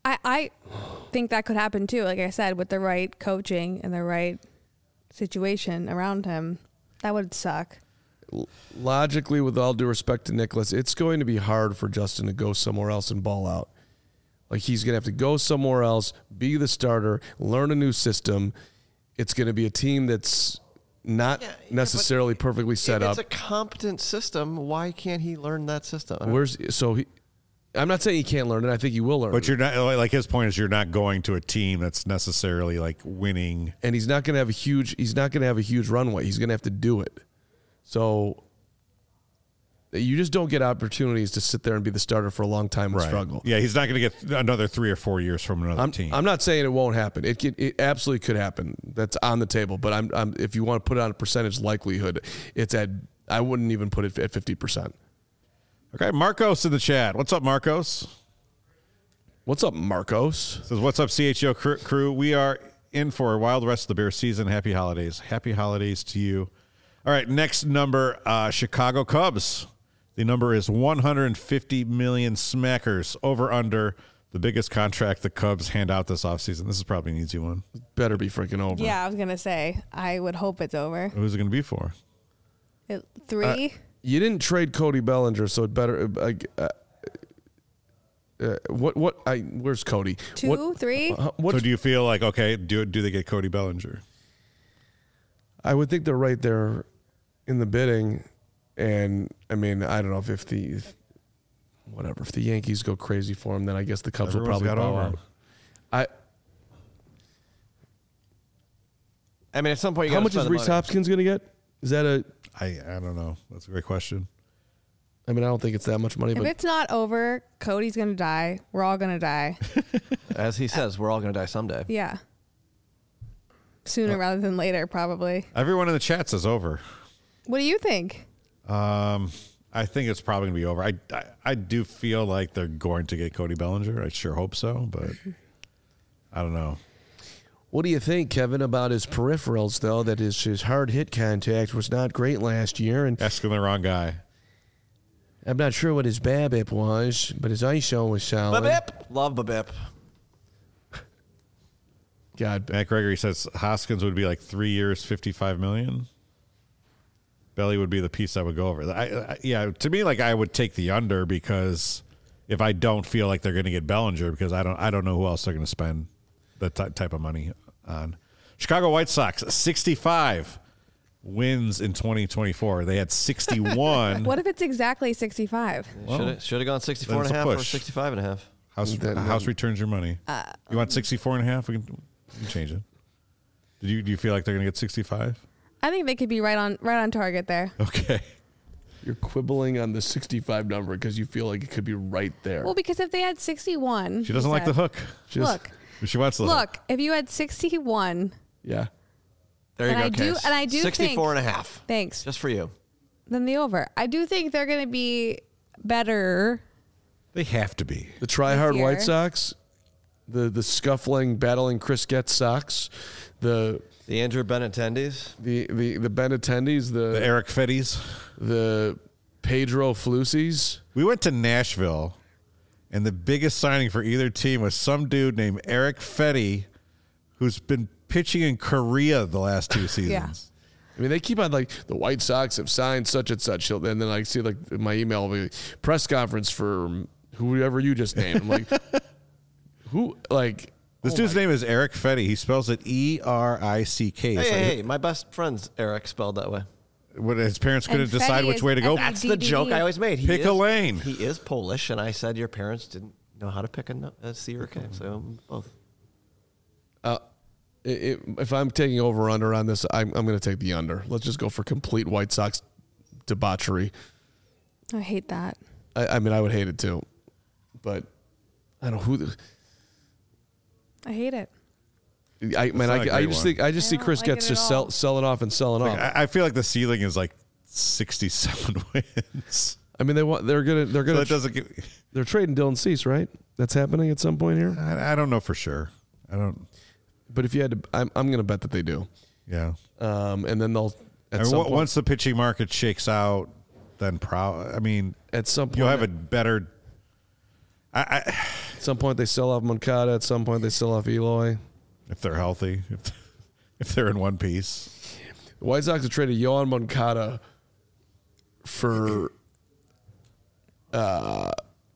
I, I think that could happen too. Like I said, with the right coaching and the right situation around him, that would suck. Logically, with all due respect to Nicholas, it's going to be hard for Justin to go somewhere else and ball out. Like he's going to have to go somewhere else, be the starter, learn a new system. It's going to be a team that's not Yeah, yeah, necessarily but perfectly set if up. it's a competent system, why can't he learn that system? I don't- Where's so he? I'm not saying he can't learn it. I think he will learn But it. you're not like his point is you're not going to a team that's necessarily like winning. And he's not going to have a huge. He's not going to have a huge runway. He's going to have to do it. So you just don't get opportunities to sit there and be the starter for a long time and struggle. Yeah, he's not going to get another three or four years from another I'm, team. I'm not saying it won't happen. It could, it absolutely could happen. That's on the table. But I'm, I'm if you want to put it on a percentage likelihood, it's at. I wouldn't even put it at fifty percent. Okay, Marcos in the chat. What's up, Marcos? What's up, Marcos? Says, what's up, C H O cr- crew? We are in for a wild rest of the Bears season. Happy holidays. Happy holidays to you. All right, next number, uh, Chicago Cubs. The number is one hundred fifty million smackers over under the biggest contract the Cubs hand out this offseason. This is probably an easy one. Better be freaking over. Yeah, I was going to say, I would hope it's over. Who's it going to be for? It, three? Uh, You didn't trade Cody Bellinger, so it better. Uh, uh, uh, what? What? I. Where's Cody? Two, What, three? Uh, what? So do you feel like, okay, do do they get Cody Bellinger? I would think they're right there in the bidding, and I mean, I don't know if, if the if, whatever if the Yankees go crazy for him, then I guess the Cubs Everyone's will got probably bow over. out. I. I mean, at some point, you How gotta much is spend the Reese money. Hopkins going to get? Is that a? I I don't know. That's a great question. I mean, I don't think it's that much money, If but it's not over, Cody's going to die. We're all going to die. As he says, we're all going to die someday. Yeah. Sooner rather than later, probably. Everyone in the chat says over. What do you think? Um, I think it's probably going to be over. I, I I do feel like they're going to get Cody Bellinger. I sure hope so, but I don't know. what do you think, Kevin, about his peripherals though? That his his hard hit contact was not great last year, and Asking the wrong guy. I'm not sure what his BABIP was, but his I S O was solid. Babip. Love Babip. God, Matt Gregory says Hoskins would be like three years, fifty-five million. Belly would be the piece that would go over. I, I, yeah, to me, like I would take the under because if I don't feel like they're going to get Bellinger, because I don't, I don't know who else they're going to spend that ty- type of money on. Chicago White Sox sixty-five wins in twenty twenty-four. They had sixty-one. What if it's exactly sixty-five? Well, Should have gone sixty-four and that's a a half or push. sixty-five and a half. House, Then- house returns your money. You want sixty-four and a half? We can, we can change it. Did you, do you feel like they're going to get sixty-five? I think they could be right on right on target there. Okay. you're quibbling on the sixty-five number because you feel like it could be right there. Well, because if they had sixty-one, She doesn't you like the said- hook. Just- Look, She wants the hook. look. If you had sixty-one, yeah. There you And go, I do- Case. and I do sixty-four think- and a half. thanks. Just for you. Then the over. I do think they're going to be better. They have to be. The try-hard This White year. Sox, the the scuffling, battling Chris Getz Sox, the The Andrew Benintendies. the the the Benattendes, The the Eric Fetties. the Pedro Flucies. We went to Nashville, and the biggest signing for either team was some dude named Eric Fetty, who's been pitching in Korea the last two seasons. I mean, they keep on like the White Sox have signed such and such, and then I see like my email will be, press conference for whoever you just named. I'm like, who? Like This oh dude's my- name is Eric Fetty. He spells it E R I C K. Hey, It's hey, like- hey, my best friend's Eric spelled that way. What, his parents couldn't And decide Fetty which is way to go. F E That's D the D. joke I always made. He Pick is, a lane. He is Polish, and I said your parents didn't know how to pick a, no- a C or a K, so both. Uh, it, it, if I'm taking over under on this, I'm, I'm going to take the under. Let's just go for complete White Sox debauchery. I hate that. I, I mean, I would hate it too, but I don't know who. The, I hate it. I man, not a I, I great just one. think I just I see don't Chris like Getz it at just sell all. selling off and selling off. I, I feel like the ceiling is like sixty-seven wins. I mean, they want they're gonna they're So gonna that doesn't give, they're trading Dylan Cease, right? That's happening at some point here. I, I don't know for sure. I don't. But if you had to, I'm I'm gonna bet that they do. Yeah. Um, and then they'll at I mean, some wa- point, once the pitching market shakes out, then proud. I mean, at some point you'll have a better. I, I, At some point, they sell off Moncada. At some point, they sell off Eloy. if they're healthy, if, if they're in one piece. The White Sox have traded Yohan Moncada for, uh,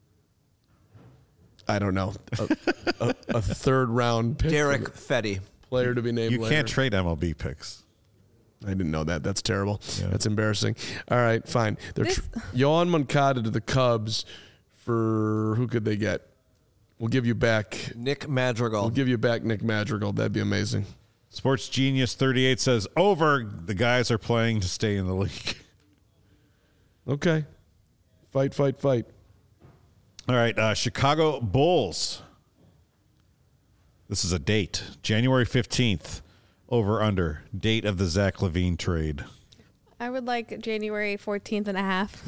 I don't know, a, a, a third round pick. Derek Fetty. Player to be named You later. can't trade M L B picks. I didn't know that. That's terrible. Yeah. That's embarrassing. All right, fine. They're This- tr- Yohan Moncada to the Cubs for who could they get? We'll give you back. Nick Madrigal. We'll give you back Nick Madrigal. That'd be amazing. Sports Genius thirty-eight says over. The guys are playing to stay in the league. Okay. Fight, fight, fight. All right, uh, Chicago Bulls. This is a date, January fifteenth. Over under date of the Zach Levine trade. I would like January fourteenth and a half.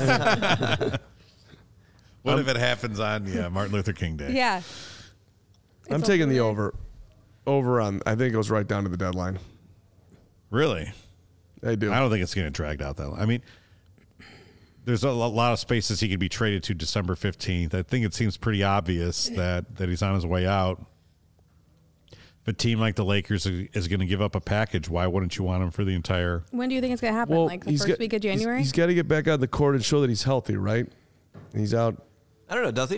What if it happens on yeah Martin Luther King Day? Yeah. I'm It's taking the over. over. Over on, I think it goes right down to the deadline. Really? I do. I don't think it's going to drag out that long. I mean, there's a lo- lot of spaces he could be traded to December fifteenth. I think it seems pretty obvious that, that he's on his way out. If a team like the Lakers is going to give up a package, why wouldn't you want him for the entire... When do you think it's going to happen? well, like the he's first got- week of he's- January? he's got to get back on the court and show that he's healthy, right? And he's out. I don't know. Does he?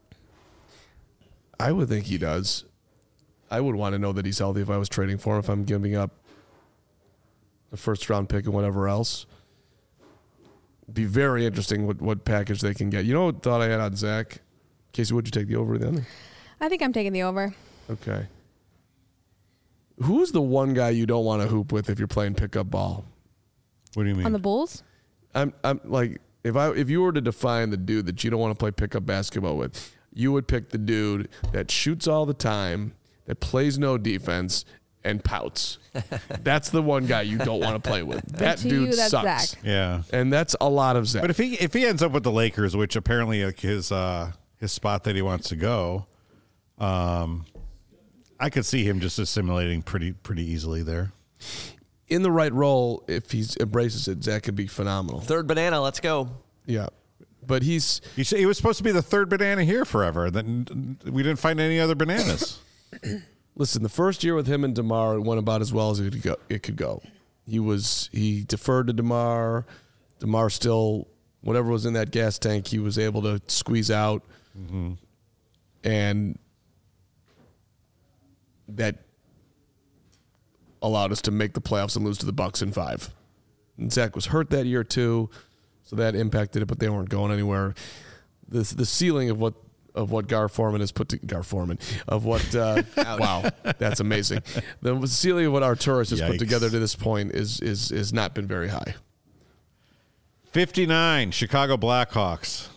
I would think he does. I would want to know that he's healthy if I was trading for him, if I'm giving up the first round pick and whatever else. Be very interesting what, what package they can get. You know what thought I had on Zach? Casey, would you take the over then? I think I'm taking the over. Okay. Who's the one guy you don't want to hoop with if you're playing pickup ball? What do you mean? On the Bulls? I'm I'm like if I if you were to define the dude that you don't want to play pickup basketball with, you would pick the dude that shoots all the time, that plays no defense, and pouts. That's the one guy you don't want to play with. That to dude you, that's sucks. Zach. yeah. And that's a lot of Zach. But if he if he ends up with the Lakers, which apparently like his uh, his spot that he wants to go, um, I could see him just assimilating pretty pretty easily there. in the right role, if he embraces it, Zach could be phenomenal. Third banana. Let's go. Yeah. But he's You say he was supposed to be the third banana here forever. Then we didn't find any other bananas. listen, the first year with him and DeMar, it went about as well as it could go. It could go. He was he deferred to DeMar. DeMar still, whatever was in that gas tank, he was able to squeeze out. Mm-hmm. And that allowed us to make the playoffs and lose to the Bucks in five. And Zach was hurt that year too, so that impacted it, but they weren't going anywhere. The the ceiling of what of what Gar Forman has put to Gar Forman of what uh, wow, that's amazing. The ceiling of what Arturis has Yikes. put together to this point is is is not been very high. fifty-nine Chicago Blackhawks.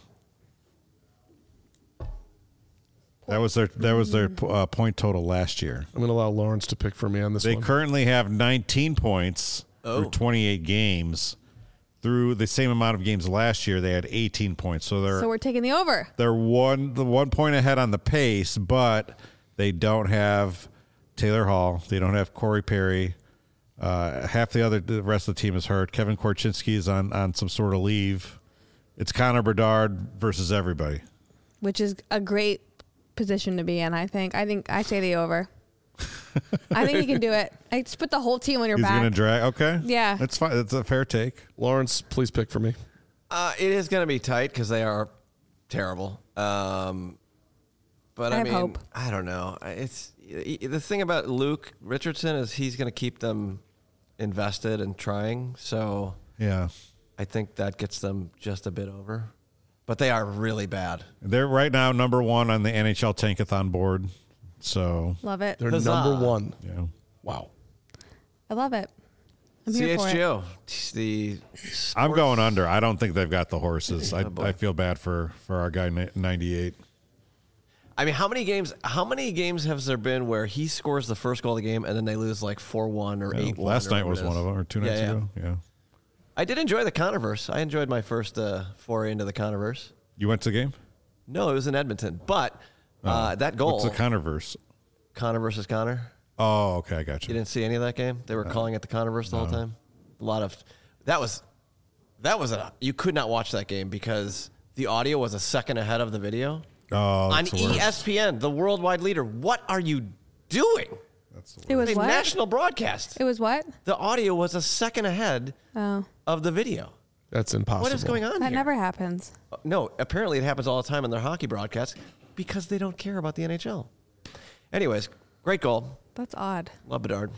That was their that was their uh, point total last year. I'm going to allow Lawrence to pick for me on this They one. currently have nineteen points Oh. through twenty-eight games. Through the same amount of games last year, they had eighteen points. So they're So we're taking the over. they're one the one point ahead on the pace, but they don't have Taylor Hall. They don't have Corey Perry. Uh, half the other the rest of the team is hurt. Kevin Korchinski is on on some sort of leave. It's Connor Bedard versus everybody. Which is a great position to be in, I think. I think I say the over. I think he can do it. I just put the whole team on your He's back. going to drag. Okay, Yeah. that's fine. That's a fair take. Lawrence, please pick for me. Uh, it is going to be tight because they are terrible. Um, but I I, have mean, hope. I don't know. It's the thing about Luke Richardson is he's going to keep them invested and trying. So Yeah, I think that gets them just a bit over. But they are really bad. they're right now number one on the N H L Tankathon board. So Love it. They're Huzzah. number one. yeah. Wow. I love it. I'm here for it. C H G O. The I'm sports- going under. I don't think they've got the horses. I, Oh, boy. I feel bad for, for our guy ni- ninety-eight. I mean, how many games? How many games has there been where he scores the first goal of the game and then they lose like four one or Yeah, eight one? last night was one of them, or two Yeah, nights yeah. ago. Yeah. I did enjoy the Controverse. I enjoyed my first uh, foray into the Controverse. You went to the game? No, it was in Edmonton, but uh, that goal, What's the Controverse? Connor versus Connor. Oh, okay, I got You you. didn't see any of that game? They were calling it the Controverse the whole time. A lot of that was that was a you could not watch that game because the audio was a second ahead of the video. Oh, on that's the worst. E S P N, the worldwide leader. What are you doing? That's the worst. It was A what? national broadcast. It was what? The audio was a second ahead Oh, of the video. That's impossible. What is going on that here? never happens. No, apparently it happens all the time in their hockey broadcasts because they don't care about the N H L. Anyways, great goal. That's odd. Love Bedard.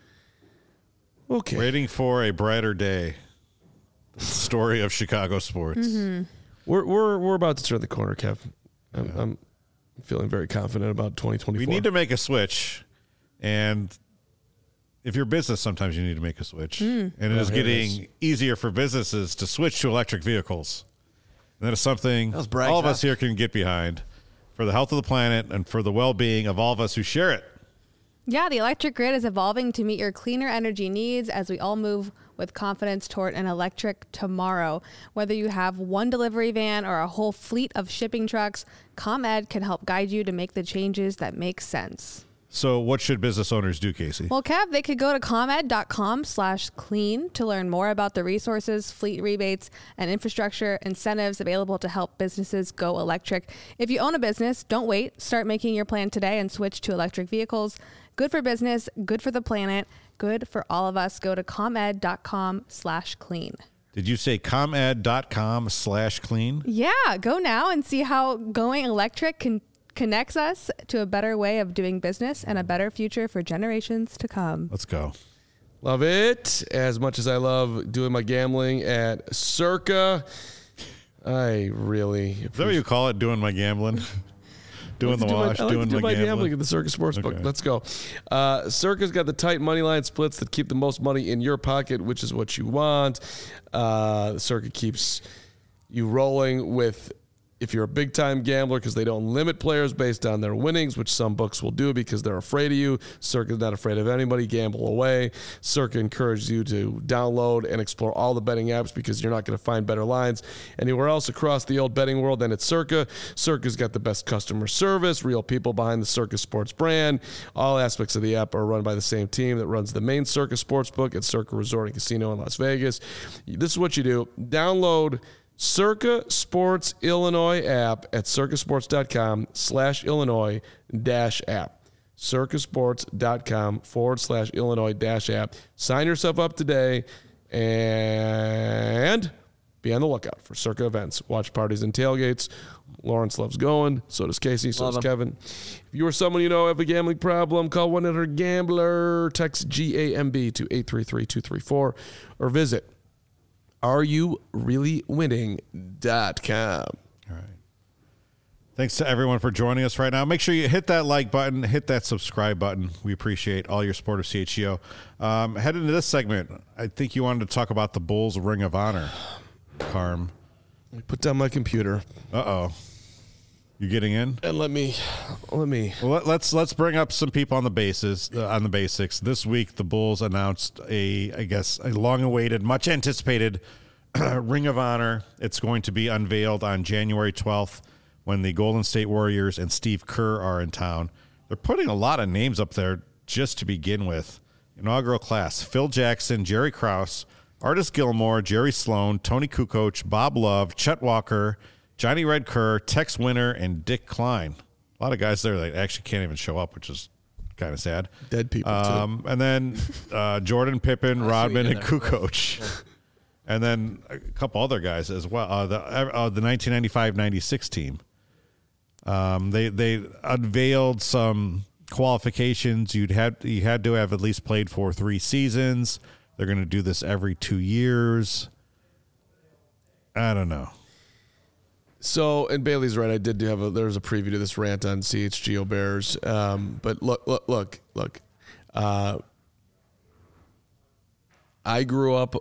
Okay. Waiting for a brighter day. The story of Chicago sports. Mm-hmm. We're we're we're about to turn the corner, Kev. I'm, I'm feeling very confident about twenty twenty-four. We need to make a switch, and if you're business, sometimes you need to make a switch. Hmm. And it is here it getting is. easier for businesses to switch to electric vehicles. And that is something That was Bragg all of us Talk. here can get behind for the health of the planet and for the well-being of all of us who share it. Yeah, the electric grid is evolving to meet your cleaner energy needs as we all move with confidence toward an electric tomorrow. Whether you have one delivery van or a whole fleet of shipping trucks, ComEd can help guide you to make the changes that make sense. So what should business owners do, Casey? Well, Kev, they could go to comed.com slash clean to learn more about the resources, fleet rebates, and infrastructure incentives available to help businesses go electric. If you own a business, don't wait. Start making your plan today and switch to electric vehicles. Good for business, good for the planet, good for all of us. Go to comed.com slash clean. Did you say comed.com slash clean? Yeah, go now and see how going electric can connects us to a better way of doing business and a better future for generations to come. Let's go. Love it as much as I love doing my gambling at Circa. I really Is that what you call it, doing my gambling? Doing the do my- wash, I like doing to do my my gambling gambling. at the Circa Sportsbook. Okay. Let's go. Uh, Circa's got the tight money line splits that keep the most money in your pocket, which is what you want. Uh, Circa keeps you rolling with, if you're a big-time gambler, because they don't limit players based on their winnings, which some books will do because they're afraid of you. Circa's not afraid of anybody. Gamble away. Circa encourages you to download and explore all the betting apps because you're not going to find better lines anywhere else across the old betting world than at Circa. Circa's got the best customer service, real people behind the Circa Sports brand. All aspects of the app are run by the same team that runs the main Circa Sportsbook at Circa Resort and Casino in Las Vegas. This is what you do. Download Circa Sports Illinois app at circasports.com slash Illinois dash app. circasports.com forward slash Illinois dash app. Sign yourself up today and be on the lookout for Circa events, watch parties, and tailgates. Lawrence loves going. So does Casey. So Love does him. Kevin. If you or someone you know have a gambling problem, call one eight hundred gambler. Text G A M B to eight three three two three four or visit are you really winning dot com. All right. Thanks to everyone for joining us right now. Make sure you hit that like button, hit that subscribe button. We appreciate all your support of C H G O. Um, head into this segment. I think you wanted to talk about the Bulls Ring of Honor, Carm. Put down my computer Uh-oh. You getting in? and let me let me Well, let, let's let's bring up some people on the bases uh, on the basics. This week, the Bulls announced a, I guess, a long-awaited, much-anticipated Ring of Honor. It's going to be unveiled on January twelfth when the Golden State Warriors and Steve Kerr are in town. They're putting a lot of names up there just to begin with. Inaugural class: Phil Jackson, Jerry Krause, Artis Gilmore, Jerry Sloan, Tony Kukoc, Bob Love, Chet Walker, Johnny Red Kerr, Tex Winter, and Dick Klein. A lot of guys there that actually can't even show up, which is kind of sad. dead people Um, and then uh, Jordan Pippen, Rodman, you and did there. Kukoc. And then a couple other guys as well. Uh, the uh, the nineteen ninety-five ninety-six team. Um, they they unveiled some qualifications. You'd had you had to have at least played for three seasons. They're going to do this every two years. I don't know. So, and Bailey's right. I did have a, there was a preview to this rant on C H G O Bears. Um, but look, look, look, look. Uh, I grew up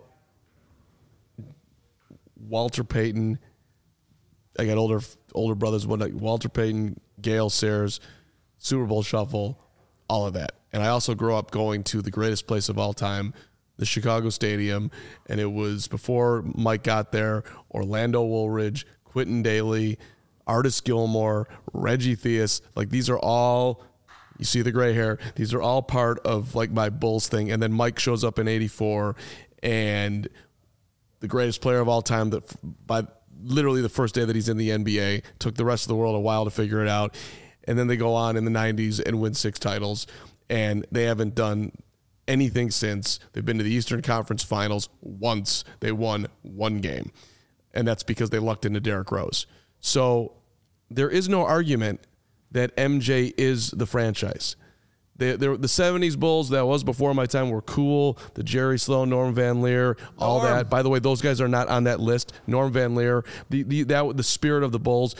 Walter Payton. I got older older brothers. One like Walter Payton, Gale Sayers, Super Bowl Shuffle, all of that. And I also grew up going to the greatest place of all time, the Chicago Stadium. And it was before Mike got there, Orlando Woolridge, Quentin Daly, Artis Gilmore, Reggie Theus. Like, these are all, you see the gray hair, these are all part of like my Bulls thing. And then Mike shows up in eighty-four and the greatest player of all time that by literally the first day that he's in the N B A. Took the rest of the world a while to figure it out. And then they go on in the nineties and win six titles. And they haven't done anything since. They've been to the Eastern Conference Finals once. They won one game. And that's because they lucked into Derrick Rose. So there is no argument that M J is the franchise. They, the seventies Bulls, that was before my time, were cool. The Jerry Sloan, Norm Van Leer, all Norm. that. By the way, those guys are not on that list. Norm Van Leer, the the that the spirit of the Bulls.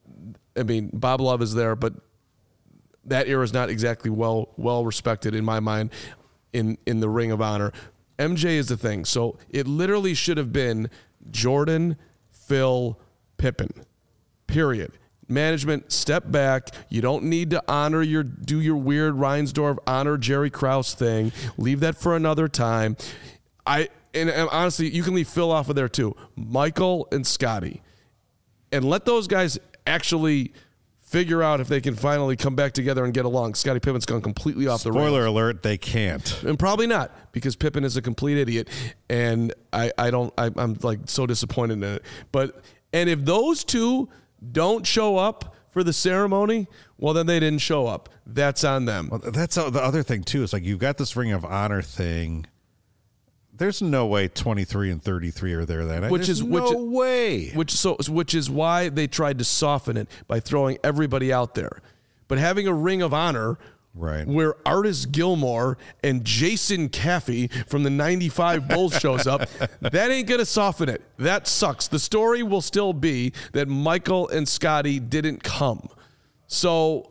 I mean, Bob Love is there, but that era is not exactly well well respected in my mind in in the Ring of Honor. M J is the thing. So it literally should have been Jordan, Phil, Pippen. Period. Management, step back. You don't need to honor your do your weird Reinsdorf honor Jerry Krause thing. Leave that for another time. I and, and honestly, you can leave Phil off of there too. Michael and Scotty, and let those guys actually figure out if they can finally come back together and get along. Scottie Pippen's gone completely off the rails. Spoiler alert: they can't, and probably not, because Pippen is a complete idiot, and I I don't I, I'm like so disappointed in it. But and if those two don't show up for the ceremony, well, then they didn't show up. That's on them. Well, that's the other thing too. Is like you've got this Ring of Honor thing. There's no way twenty-three and thirty-three are there that night. Which There's is no which, way. Which so which is why they tried to soften it by throwing everybody out there. But having a Ring of Honor, right, where Artis Gilmore and Jason Caffey from the ninety-five Bulls shows up, that ain't gonna soften it. That sucks. The story will still be that Michael and Scotty didn't come. So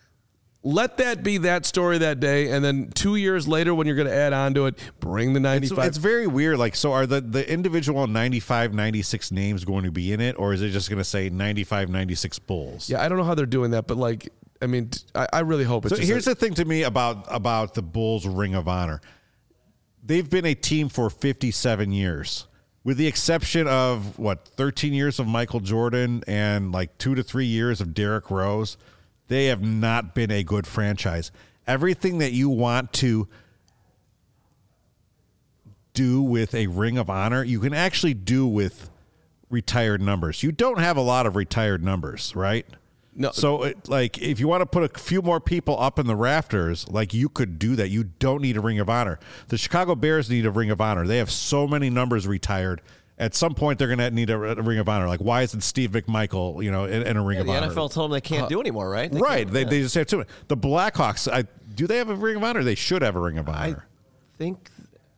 let that be that story that day, and then two years later, when you're going to add on to it, bring the ninety-five. It's, it's very weird. Like, so are the, the individual ninety-five, ninety-six names going to be in it, or is it just going to say ninety-five, ninety-six Bulls? Yeah, I don't know how they're doing that, but like, I mean, I, I really hope it's. So just here's a, the thing to me about about the Bulls Ring of Honor. They've been a team for fifty-seven years, with the exception of what thirteen years of Michael Jordan and like two to three years of Derrick Rose. They have not been a good franchise. Everything that you want to do with a Ring of Honor, you can actually do with retired numbers. You don't have a lot of retired numbers, right? No. So, it, like, if you want to put a few more people up in the rafters, like, you could do that. You don't need a Ring of Honor. The Chicago Bears need a Ring of Honor. They have so many numbers retired. At some point, they're going to need a, a Ring of Honor. Like, why isn't Steve McMichael, you know, in, in a Ring yeah, of the Honor? The N F L told them they can't uh, do anymore, right? They right. They, yeah. they just have too many. The Blackhawks, I, do they have a Ring of Honor? They should have a Ring of Honor. I think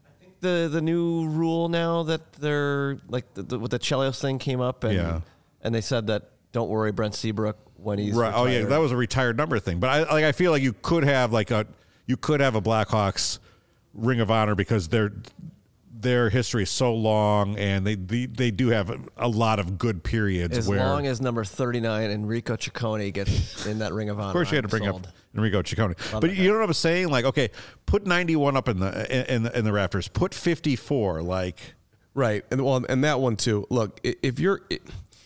the the new rule now that they're, like, the, the, with the Chelios thing came up, and yeah. and they said that, don't worry, Brent Seabrook, when he's right. retired. Oh, yeah, that was a retired number thing. But I like. I feel like you could have, like, a, you could have a Blackhawks Ring of Honor because they're, their history is so long, and they they, they do have a, a lot of good periods. As where, long as number thirty-nine, Enrico Ciccone, gets in that Ring of Honor. Of course, you had to bring sold. up Enrico Ciccone. Love But it, you know what I'm saying? Like, okay, put ninety-one up in the in the, in the rafters. Put fifty-four. Like, right, and well, and that one too. Look, if you're it,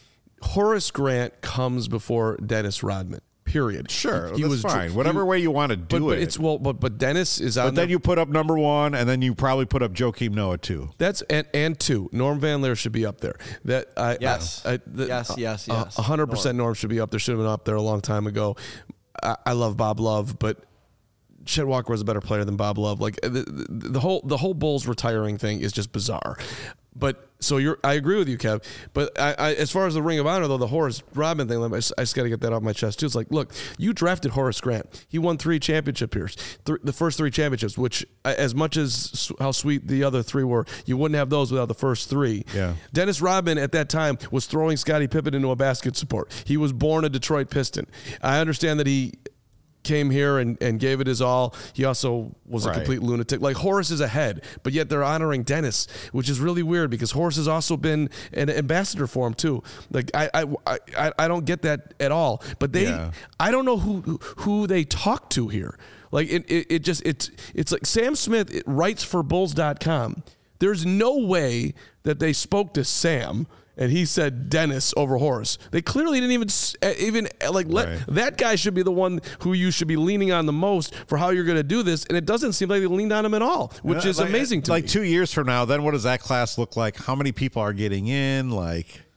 Horace Grant comes before Dennis Rodman. Period. Sure, he that's was fine. he, Whatever way you want to do but, but it. it's well, but but Dennis is on. But then the, you put up number one, and then you probably put up Joakim Noah too. That's and, and two. Norm Van Leer should be up there. That I, yes, I, I, the, yes, yes, yes. A hundred percent Norm should be up there. Should have been up there a long time ago. I, I love Bob Love, but Chet Walker was a better player than Bob Love. Like the, the, the whole the whole Bulls retiring thing is just bizarre. But so you're, I agree with you, Kev. But I, I, as far as the Ring of Honor, though, the Horace Rodman thing, I just, I just got to get that off my chest too. It's like, look, you drafted Horace Grant. He won three championship years, th- the first three championships. Which, as much as how sweet the other three were, you wouldn't have those without the first three. Yeah. Dennis Rodman at that time was throwing Scottie Pippen into a basket support. He was born a Detroit Piston. I understand that he came here and, and gave it his all. He also was right. a complete lunatic. Like Horace is ahead, but yet they're honoring Dennis, which is really weird because Horace has also been an ambassador for him too. Like I I I, I don't get that at all. But they yeah. I don't know who who they talk to here. Like it it, it just it's it's like Sam Smith it writes for Bulls dot com. There's no way that they spoke to Sam and he said Dennis over Horace. They clearly didn't even even like let right. that guy should be the one who you should be leaning on the most for how you're going to do this. And it doesn't seem like they leaned on him at all, which is like, amazing to like me. Like two years from now, then what does that class look like? How many people are getting in? Like,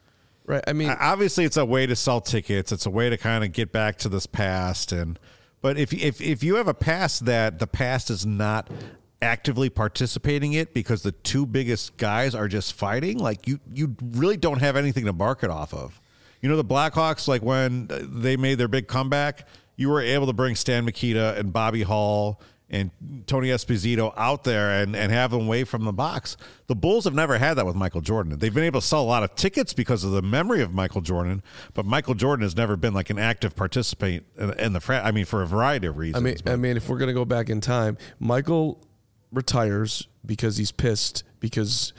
Right. I mean, obviously, it's a way to sell tickets. It's a way to kind of get back to this past. And but if if if you have a past that the past is not actively participating in it because the two biggest guys are just fighting, like you you really don't have anything to mark it off of. You know, the Blackhawks, like when they made their big comeback, you were able to bring Stan Mikita and Bobby Hall and Tony Esposito out there and, and have them away from the box. The Bulls have never had that with Michael Jordan. They've been able to sell a lot of tickets because of the memory of Michael Jordan, but Michael Jordan has never been like an active participant in, in the frat. I mean, for a variety of reasons. I mean, but. I mean, if we're gonna go back in time, Michael retires because he's pissed because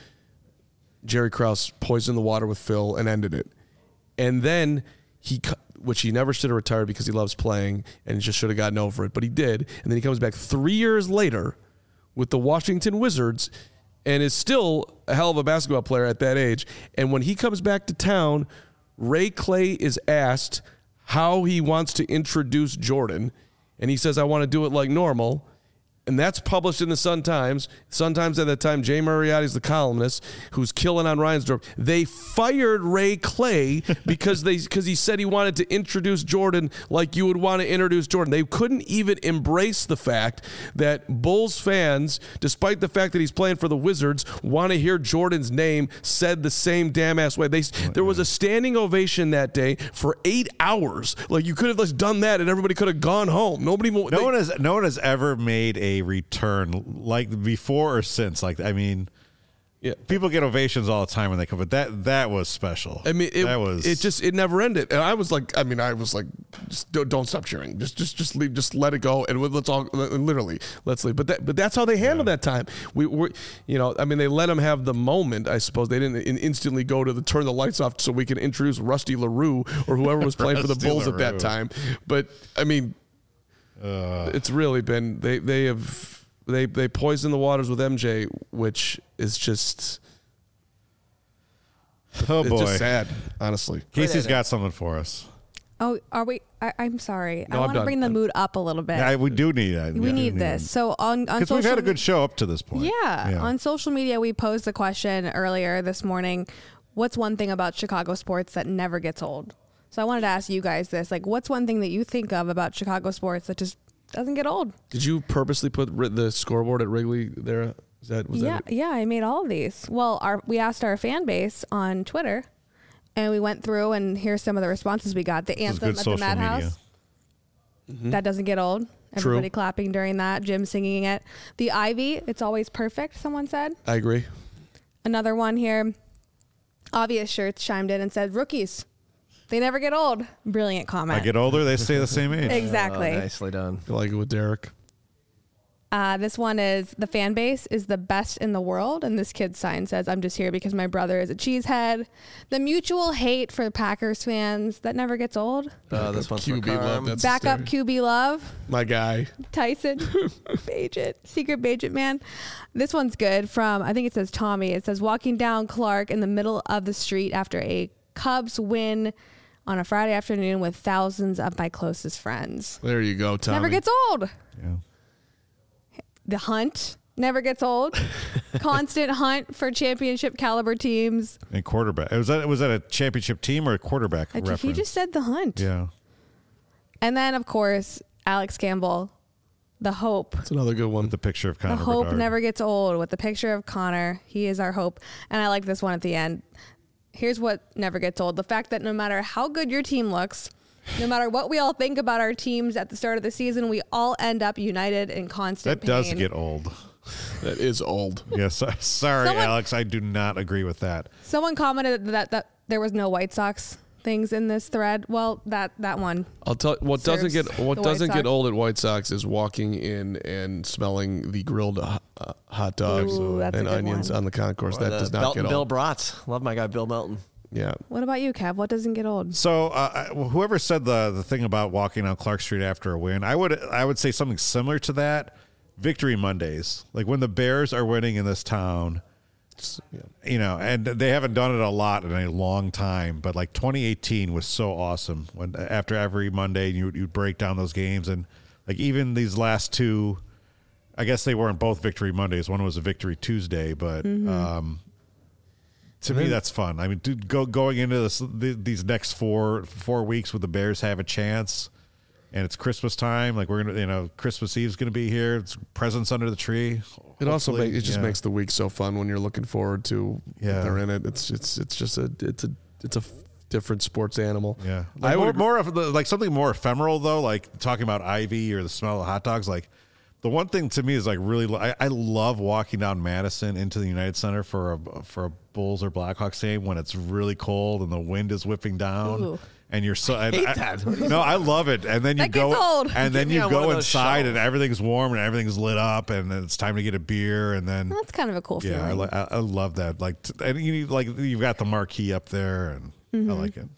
Jerry Krause poisoned the water with Phil and ended it. And then he, which he never should have retired because he loves playing and he just should have gotten over it, but he did. And then he comes back three years later with the Washington Wizards and is still a hell of a basketball player at that age. And when he comes back to town, Ray Clay is asked how he wants to introduce Jordan. And he says, I want to do it like normal. And that's published in the Sun-Times. Sun-Times at that time, Jay Moriarty's the columnist who's killing on Reinsdorf. They fired Ray Clay because they because he said he wanted to introduce Jordan like you would want to introduce Jordan. They couldn't even embrace the fact that Bulls fans, despite the fact that he's playing for the Wizards, want to hear Jordan's name said the same damn ass way. They, there was a standing ovation that day for eight hours. Like you could have just done that and everybody could have gone home. Nobody. No they, one has no one has ever made a return like before or since. Like I mean, yeah, people get ovations all the time when they come, but that that was special. I mean, it, that was it just it never ended, and I was like, I mean, I was like, just don't, don't stop cheering, just just just leave, just let it go, and let's all literally let's leave. But that but that's how they handled yeah. that time. We were, you know, I mean, they let them have the moment. I suppose they didn't instantly go to the turn the lights off so we can introduce Rusty LaRue or whoever was playing for the Bulls LaRue. At that time. But I mean, uh, it's really been they they have. They they poison the waters with M J, which is just oh it's boy, just sad, honestly. Casey's got something for us. Oh, are we? I, I'm sorry. No, I want to bring the I'm, mood up a little bit. Yeah, we do need that. We, we need need this. it. So on on because social, we've had a good show up to this point. Yeah, yeah, on social media we posed the question earlier this morning. What's one thing about Chicago sports that never gets old? So I wanted to ask you guys this: like, what's one thing that you think of about Chicago sports that just doesn't get old? Did you purposely put the scoreboard at Wrigley there? Is that was yeah, that it? yeah. I made all of these. Well, our we asked our fan base on Twitter, and we went through and here's some of the responses we got. The This is anthem good at the social Madhouse. Mm-hmm. That doesn't get old. Everybody True. clapping during that. Jim singing it. The Ivy. It's always perfect. Someone said. I agree. Another one here. Obvious Shirts chimed in and said, "Rookies. They never get old." Brilliant comment. I get older, they stay the same age. Exactly. Oh, nicely done. I like it with Derek. Uh, this one is the fan base is the best in the world. And this kid's sign says, "I'm just here because my brother is a cheesehead." The mutual hate for Packers fans that never gets old. Uh, this one's for Q B love. Carm. That's Back up hysterical. Q B love. My guy. Tyson, Bajet, Secret Bajet Man. This one's good from, I think it says Tommy. It says, walking down Clark in the middle of the street after a Cubs win on a Friday afternoon with thousands of my closest friends. There you go, Tommy. Never gets old. Yeah. The hunt never gets old. Constant hunt for championship caliber teams. And quarterback. Was that was that a championship team or a quarterback I, reference? he just said the hunt. yeah. And then, of course, Alex Campbell, the hope. That's another good one. The picture of The Connor hope Bedard. never gets old with the picture of Connor. He is our hope. And I like this one at the end. Here's what never gets old. The fact that no matter how good your team looks, no matter what we all think about our teams at the start of the season, we all end up united in constant That pain. does get old. That is old. Yes. Sorry, Someone- Alex. I do not agree with that. Someone commented that, that there was no White Sox things in this thread. Well, that, that one. I'll tell what doesn't Serves get what the White doesn't Sox. get old at White Sox is walking in and smelling the grilled uh, hot dogs Ooh, that's a and good onions one. on the concourse. Or That the does not Belton get Bill old. Bratz. Love my guy Bill Melton. Yeah. What about you, Kev? What doesn't get old? So, uh, whoever said the the thing about walking on Clark Street after a win, I would I would say something similar to that. Victory Mondays, like when the Bears are winning in this town, Yeah. you know, and they haven't done it a lot in a long time. But like twenty eighteen was so awesome when after every Monday you you break down those games, and like even these last two, I guess they weren't both Victory Mondays. One was a Victory Tuesday, but Mm-hmm. um, to me, that's fun. I mean, dude, go going into this the, these next four four weeks with the Bears have a chance, and it's Christmas time. Like we're gonna, you know, Christmas Eve's gonna be here. It's presents under the tree. It also Hopefully, makes it just yeah. makes the week so fun when you're looking forward to. Yeah. They're in it. It's it's it's just a it's a it's a different sports animal. Yeah, I like more, would more of the, like something more ephemeral though, like talking about Ivy or the smell of hot dogs. Like the one thing to me is like really, I, I love walking down Madison into the United Center for a for a Bulls or Blackhawks game when it's really cold and the wind is whipping down. Ooh. And you're so I hate I- that. No, I love it. And then you That go gets old. and then Get me you on one go of those inside shelves. and everything's warm and everything's lit up and then it's time to get a beer and then That's kind of a cool yeah, I, feeling. li- I, I love that. Like t- and you need, like you've got the marquee up there and Mm-hmm. I like it.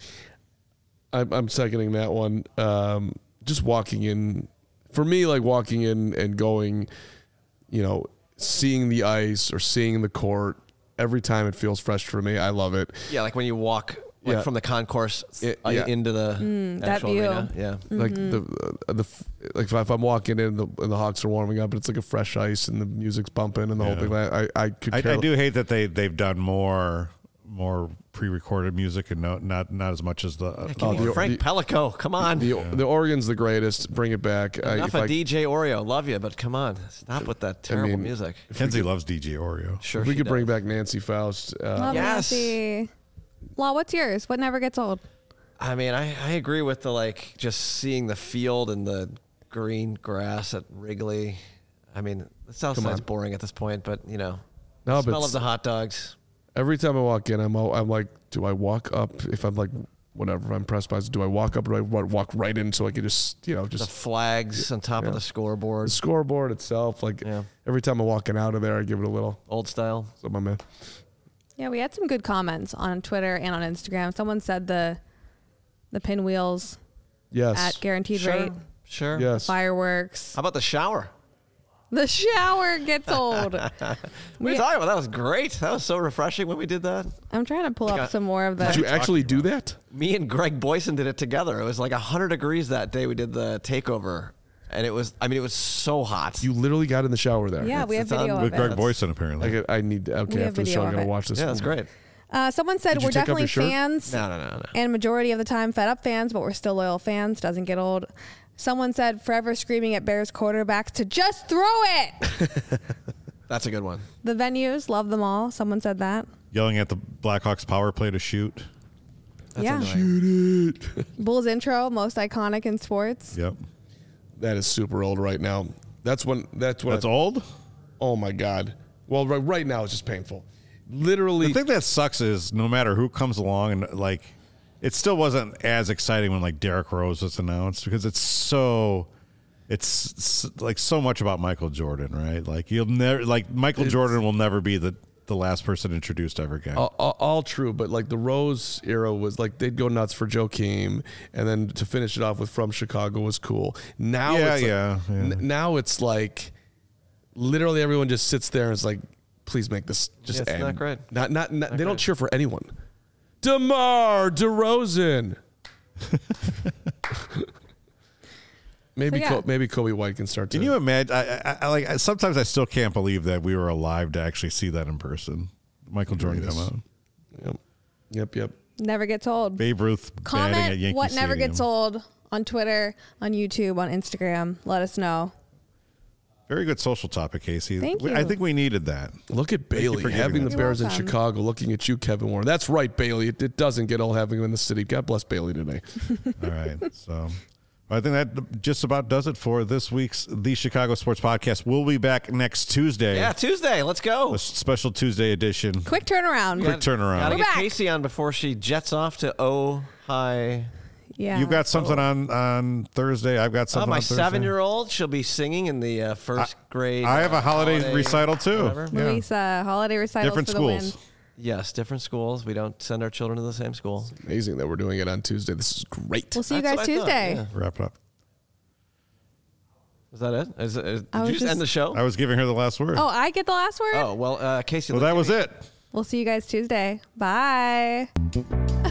I'm, I'm seconding that one. Um, just walking in, for me, like walking in and going, you know, seeing the ice or seeing the court every time it feels fresh for me. I love it. Yeah, like when you walk like Yeah. from the concourse Yeah, uh, yeah. into the Mm, that actual view. arena. Yeah. Like the uh, the f- like if, I- if I'm walking in the, and the Hawks are warming up, and it's like a fresh ice and the music's bumping and the whole Yeah. thing. I I, I could. I, care I do hate that they they've done more more pre-recorded music and no, not not as much as the. Yeah, give Oh, me the- Frank the- Pellico. Come on. The the Oregon's the greatest. Bring it back. I, Enough if of I, D J Oreo. Love you, but come on. Stop with that terrible mean, music. Kenzie loves D J Oreo. Sure. if we she could bring does. back Nancy Faust. Uh, Love Yes. Nancy. Law, what's yours? What never gets old? I mean, I, I agree with the like just seeing the field and the green grass at Wrigley. I mean, the South Come Side's on. boring at this point, but you know, No, the but smell of s- the hot dogs. Every time I walk in, I'm al- I'm like, do I walk up? If I'm like, whatever, if I'm pressed by, do I walk up or do I wa- walk right in so I can just, you know, The just flags on top yeah. of the scoreboard. the scoreboard itself? Like Yeah. every time I'm walking out of there, I give it a little. Old style. So my man, Yeah, we had some good comments on Twitter and on Instagram. Someone said the the pinwheels yes, at guaranteed Sure. rate, Sure. yes. fireworks. How about the shower? The shower gets old. What are We- you talking about? That was great. That was so refreshing when we did that. I'm trying to pull up Got- some more of Did you the. actually do that? Me and Greg Boyson did it together. It was like one hundred degrees that day we did the takeover. And it was, I mean, it was so hot. You literally got in the shower there. Yeah, we have it's on- video With of Greg it. Boyson, apparently. I, get- I need. Okay, We have after the video show, I'm of gonna it. watch this. yeah, that's great. Uh, someone said Did you we're take off definitely your shirt? fans, No, no, no, no. and majority of the time fed up fans, but we're still loyal fans. Doesn't get old. Someone said forever screaming at Bears quarterbacks to just throw it. That's a good one. The venues love them all. Someone said that. Yelling at the Blackhawks power play to shoot. That's yeah. annoying. Bulls intro, most iconic in sports. Yep. That is super old right now. That's when. That's when. That's I, old. Oh my god. Well, right, right now it's just painful. Literally. The thing that sucks is no matter who comes along and like, it still wasn't as exciting when like Derrick Rose was announced because it's so, it's s- like so much about Michael Jordan, right? Like you'll never like Michael It's- Jordan will never be the the last person introduced ever again. all, all, all true, but like the Rose era was like they'd go nuts for Joakim, and then to finish it off with From Chicago was cool. Now, Yeah, it's like, yeah, yeah. n- now it's like literally everyone just sits there and is like, "Please make this just Yeah, it's end." not great. Not, not, not- they don't great. cheer for anyone. DeMar DeRozan. maybe So, yeah. Co- maybe Kobe White can start to. Can you imagine? I, I, I like I, sometimes I still can't believe that we were alive to actually see that in person. Michael Jordan Yes. come out. Yep, yep, yep. Never gets old. Babe Ruth batting at Comment Yankee what never Stadium. gets old on Twitter, on YouTube, on Instagram. Let us know. Very good social topic, Casey. Thank We- I you. think we needed that. Look at you Bailey for giving having the us that. Bears in You're welcome. Chicago. Looking at you, Kevin Warren. That's right, Bailey. It, it doesn't get old having him in the city. God bless Bailey today. All right. So I think that just about does it for this week's The Chicago Sports Podcast. We'll be back next Tuesday. Yeah, Tuesday. Let's go. A special Tuesday edition. Quick turnaround. Quick turnaround. Gotta We're get back. Casey on before she jets off to Ojai. Yeah. You've got something on, on Thursday. I've got Oh, something my on Thursday. seven-year-old, she'll be singing in the uh, first grade. I have a uh, holiday, recital too. whatever. Yeah. Louisa, holiday recitals Different for the schools. win. Yes, different schools. We don't send our children to the same school. Amazing that we're doing it on Tuesday. This is great. We'll see you That's guys what I thought, Tuesday. yeah. Wrap it up. Is that it? Is, is, did I you was just, just- end the show? I was giving her the last word. Oh, I get the last word? Oh, well, uh, Casey. well, let that me- was it. We'll see you guys Tuesday. Bye.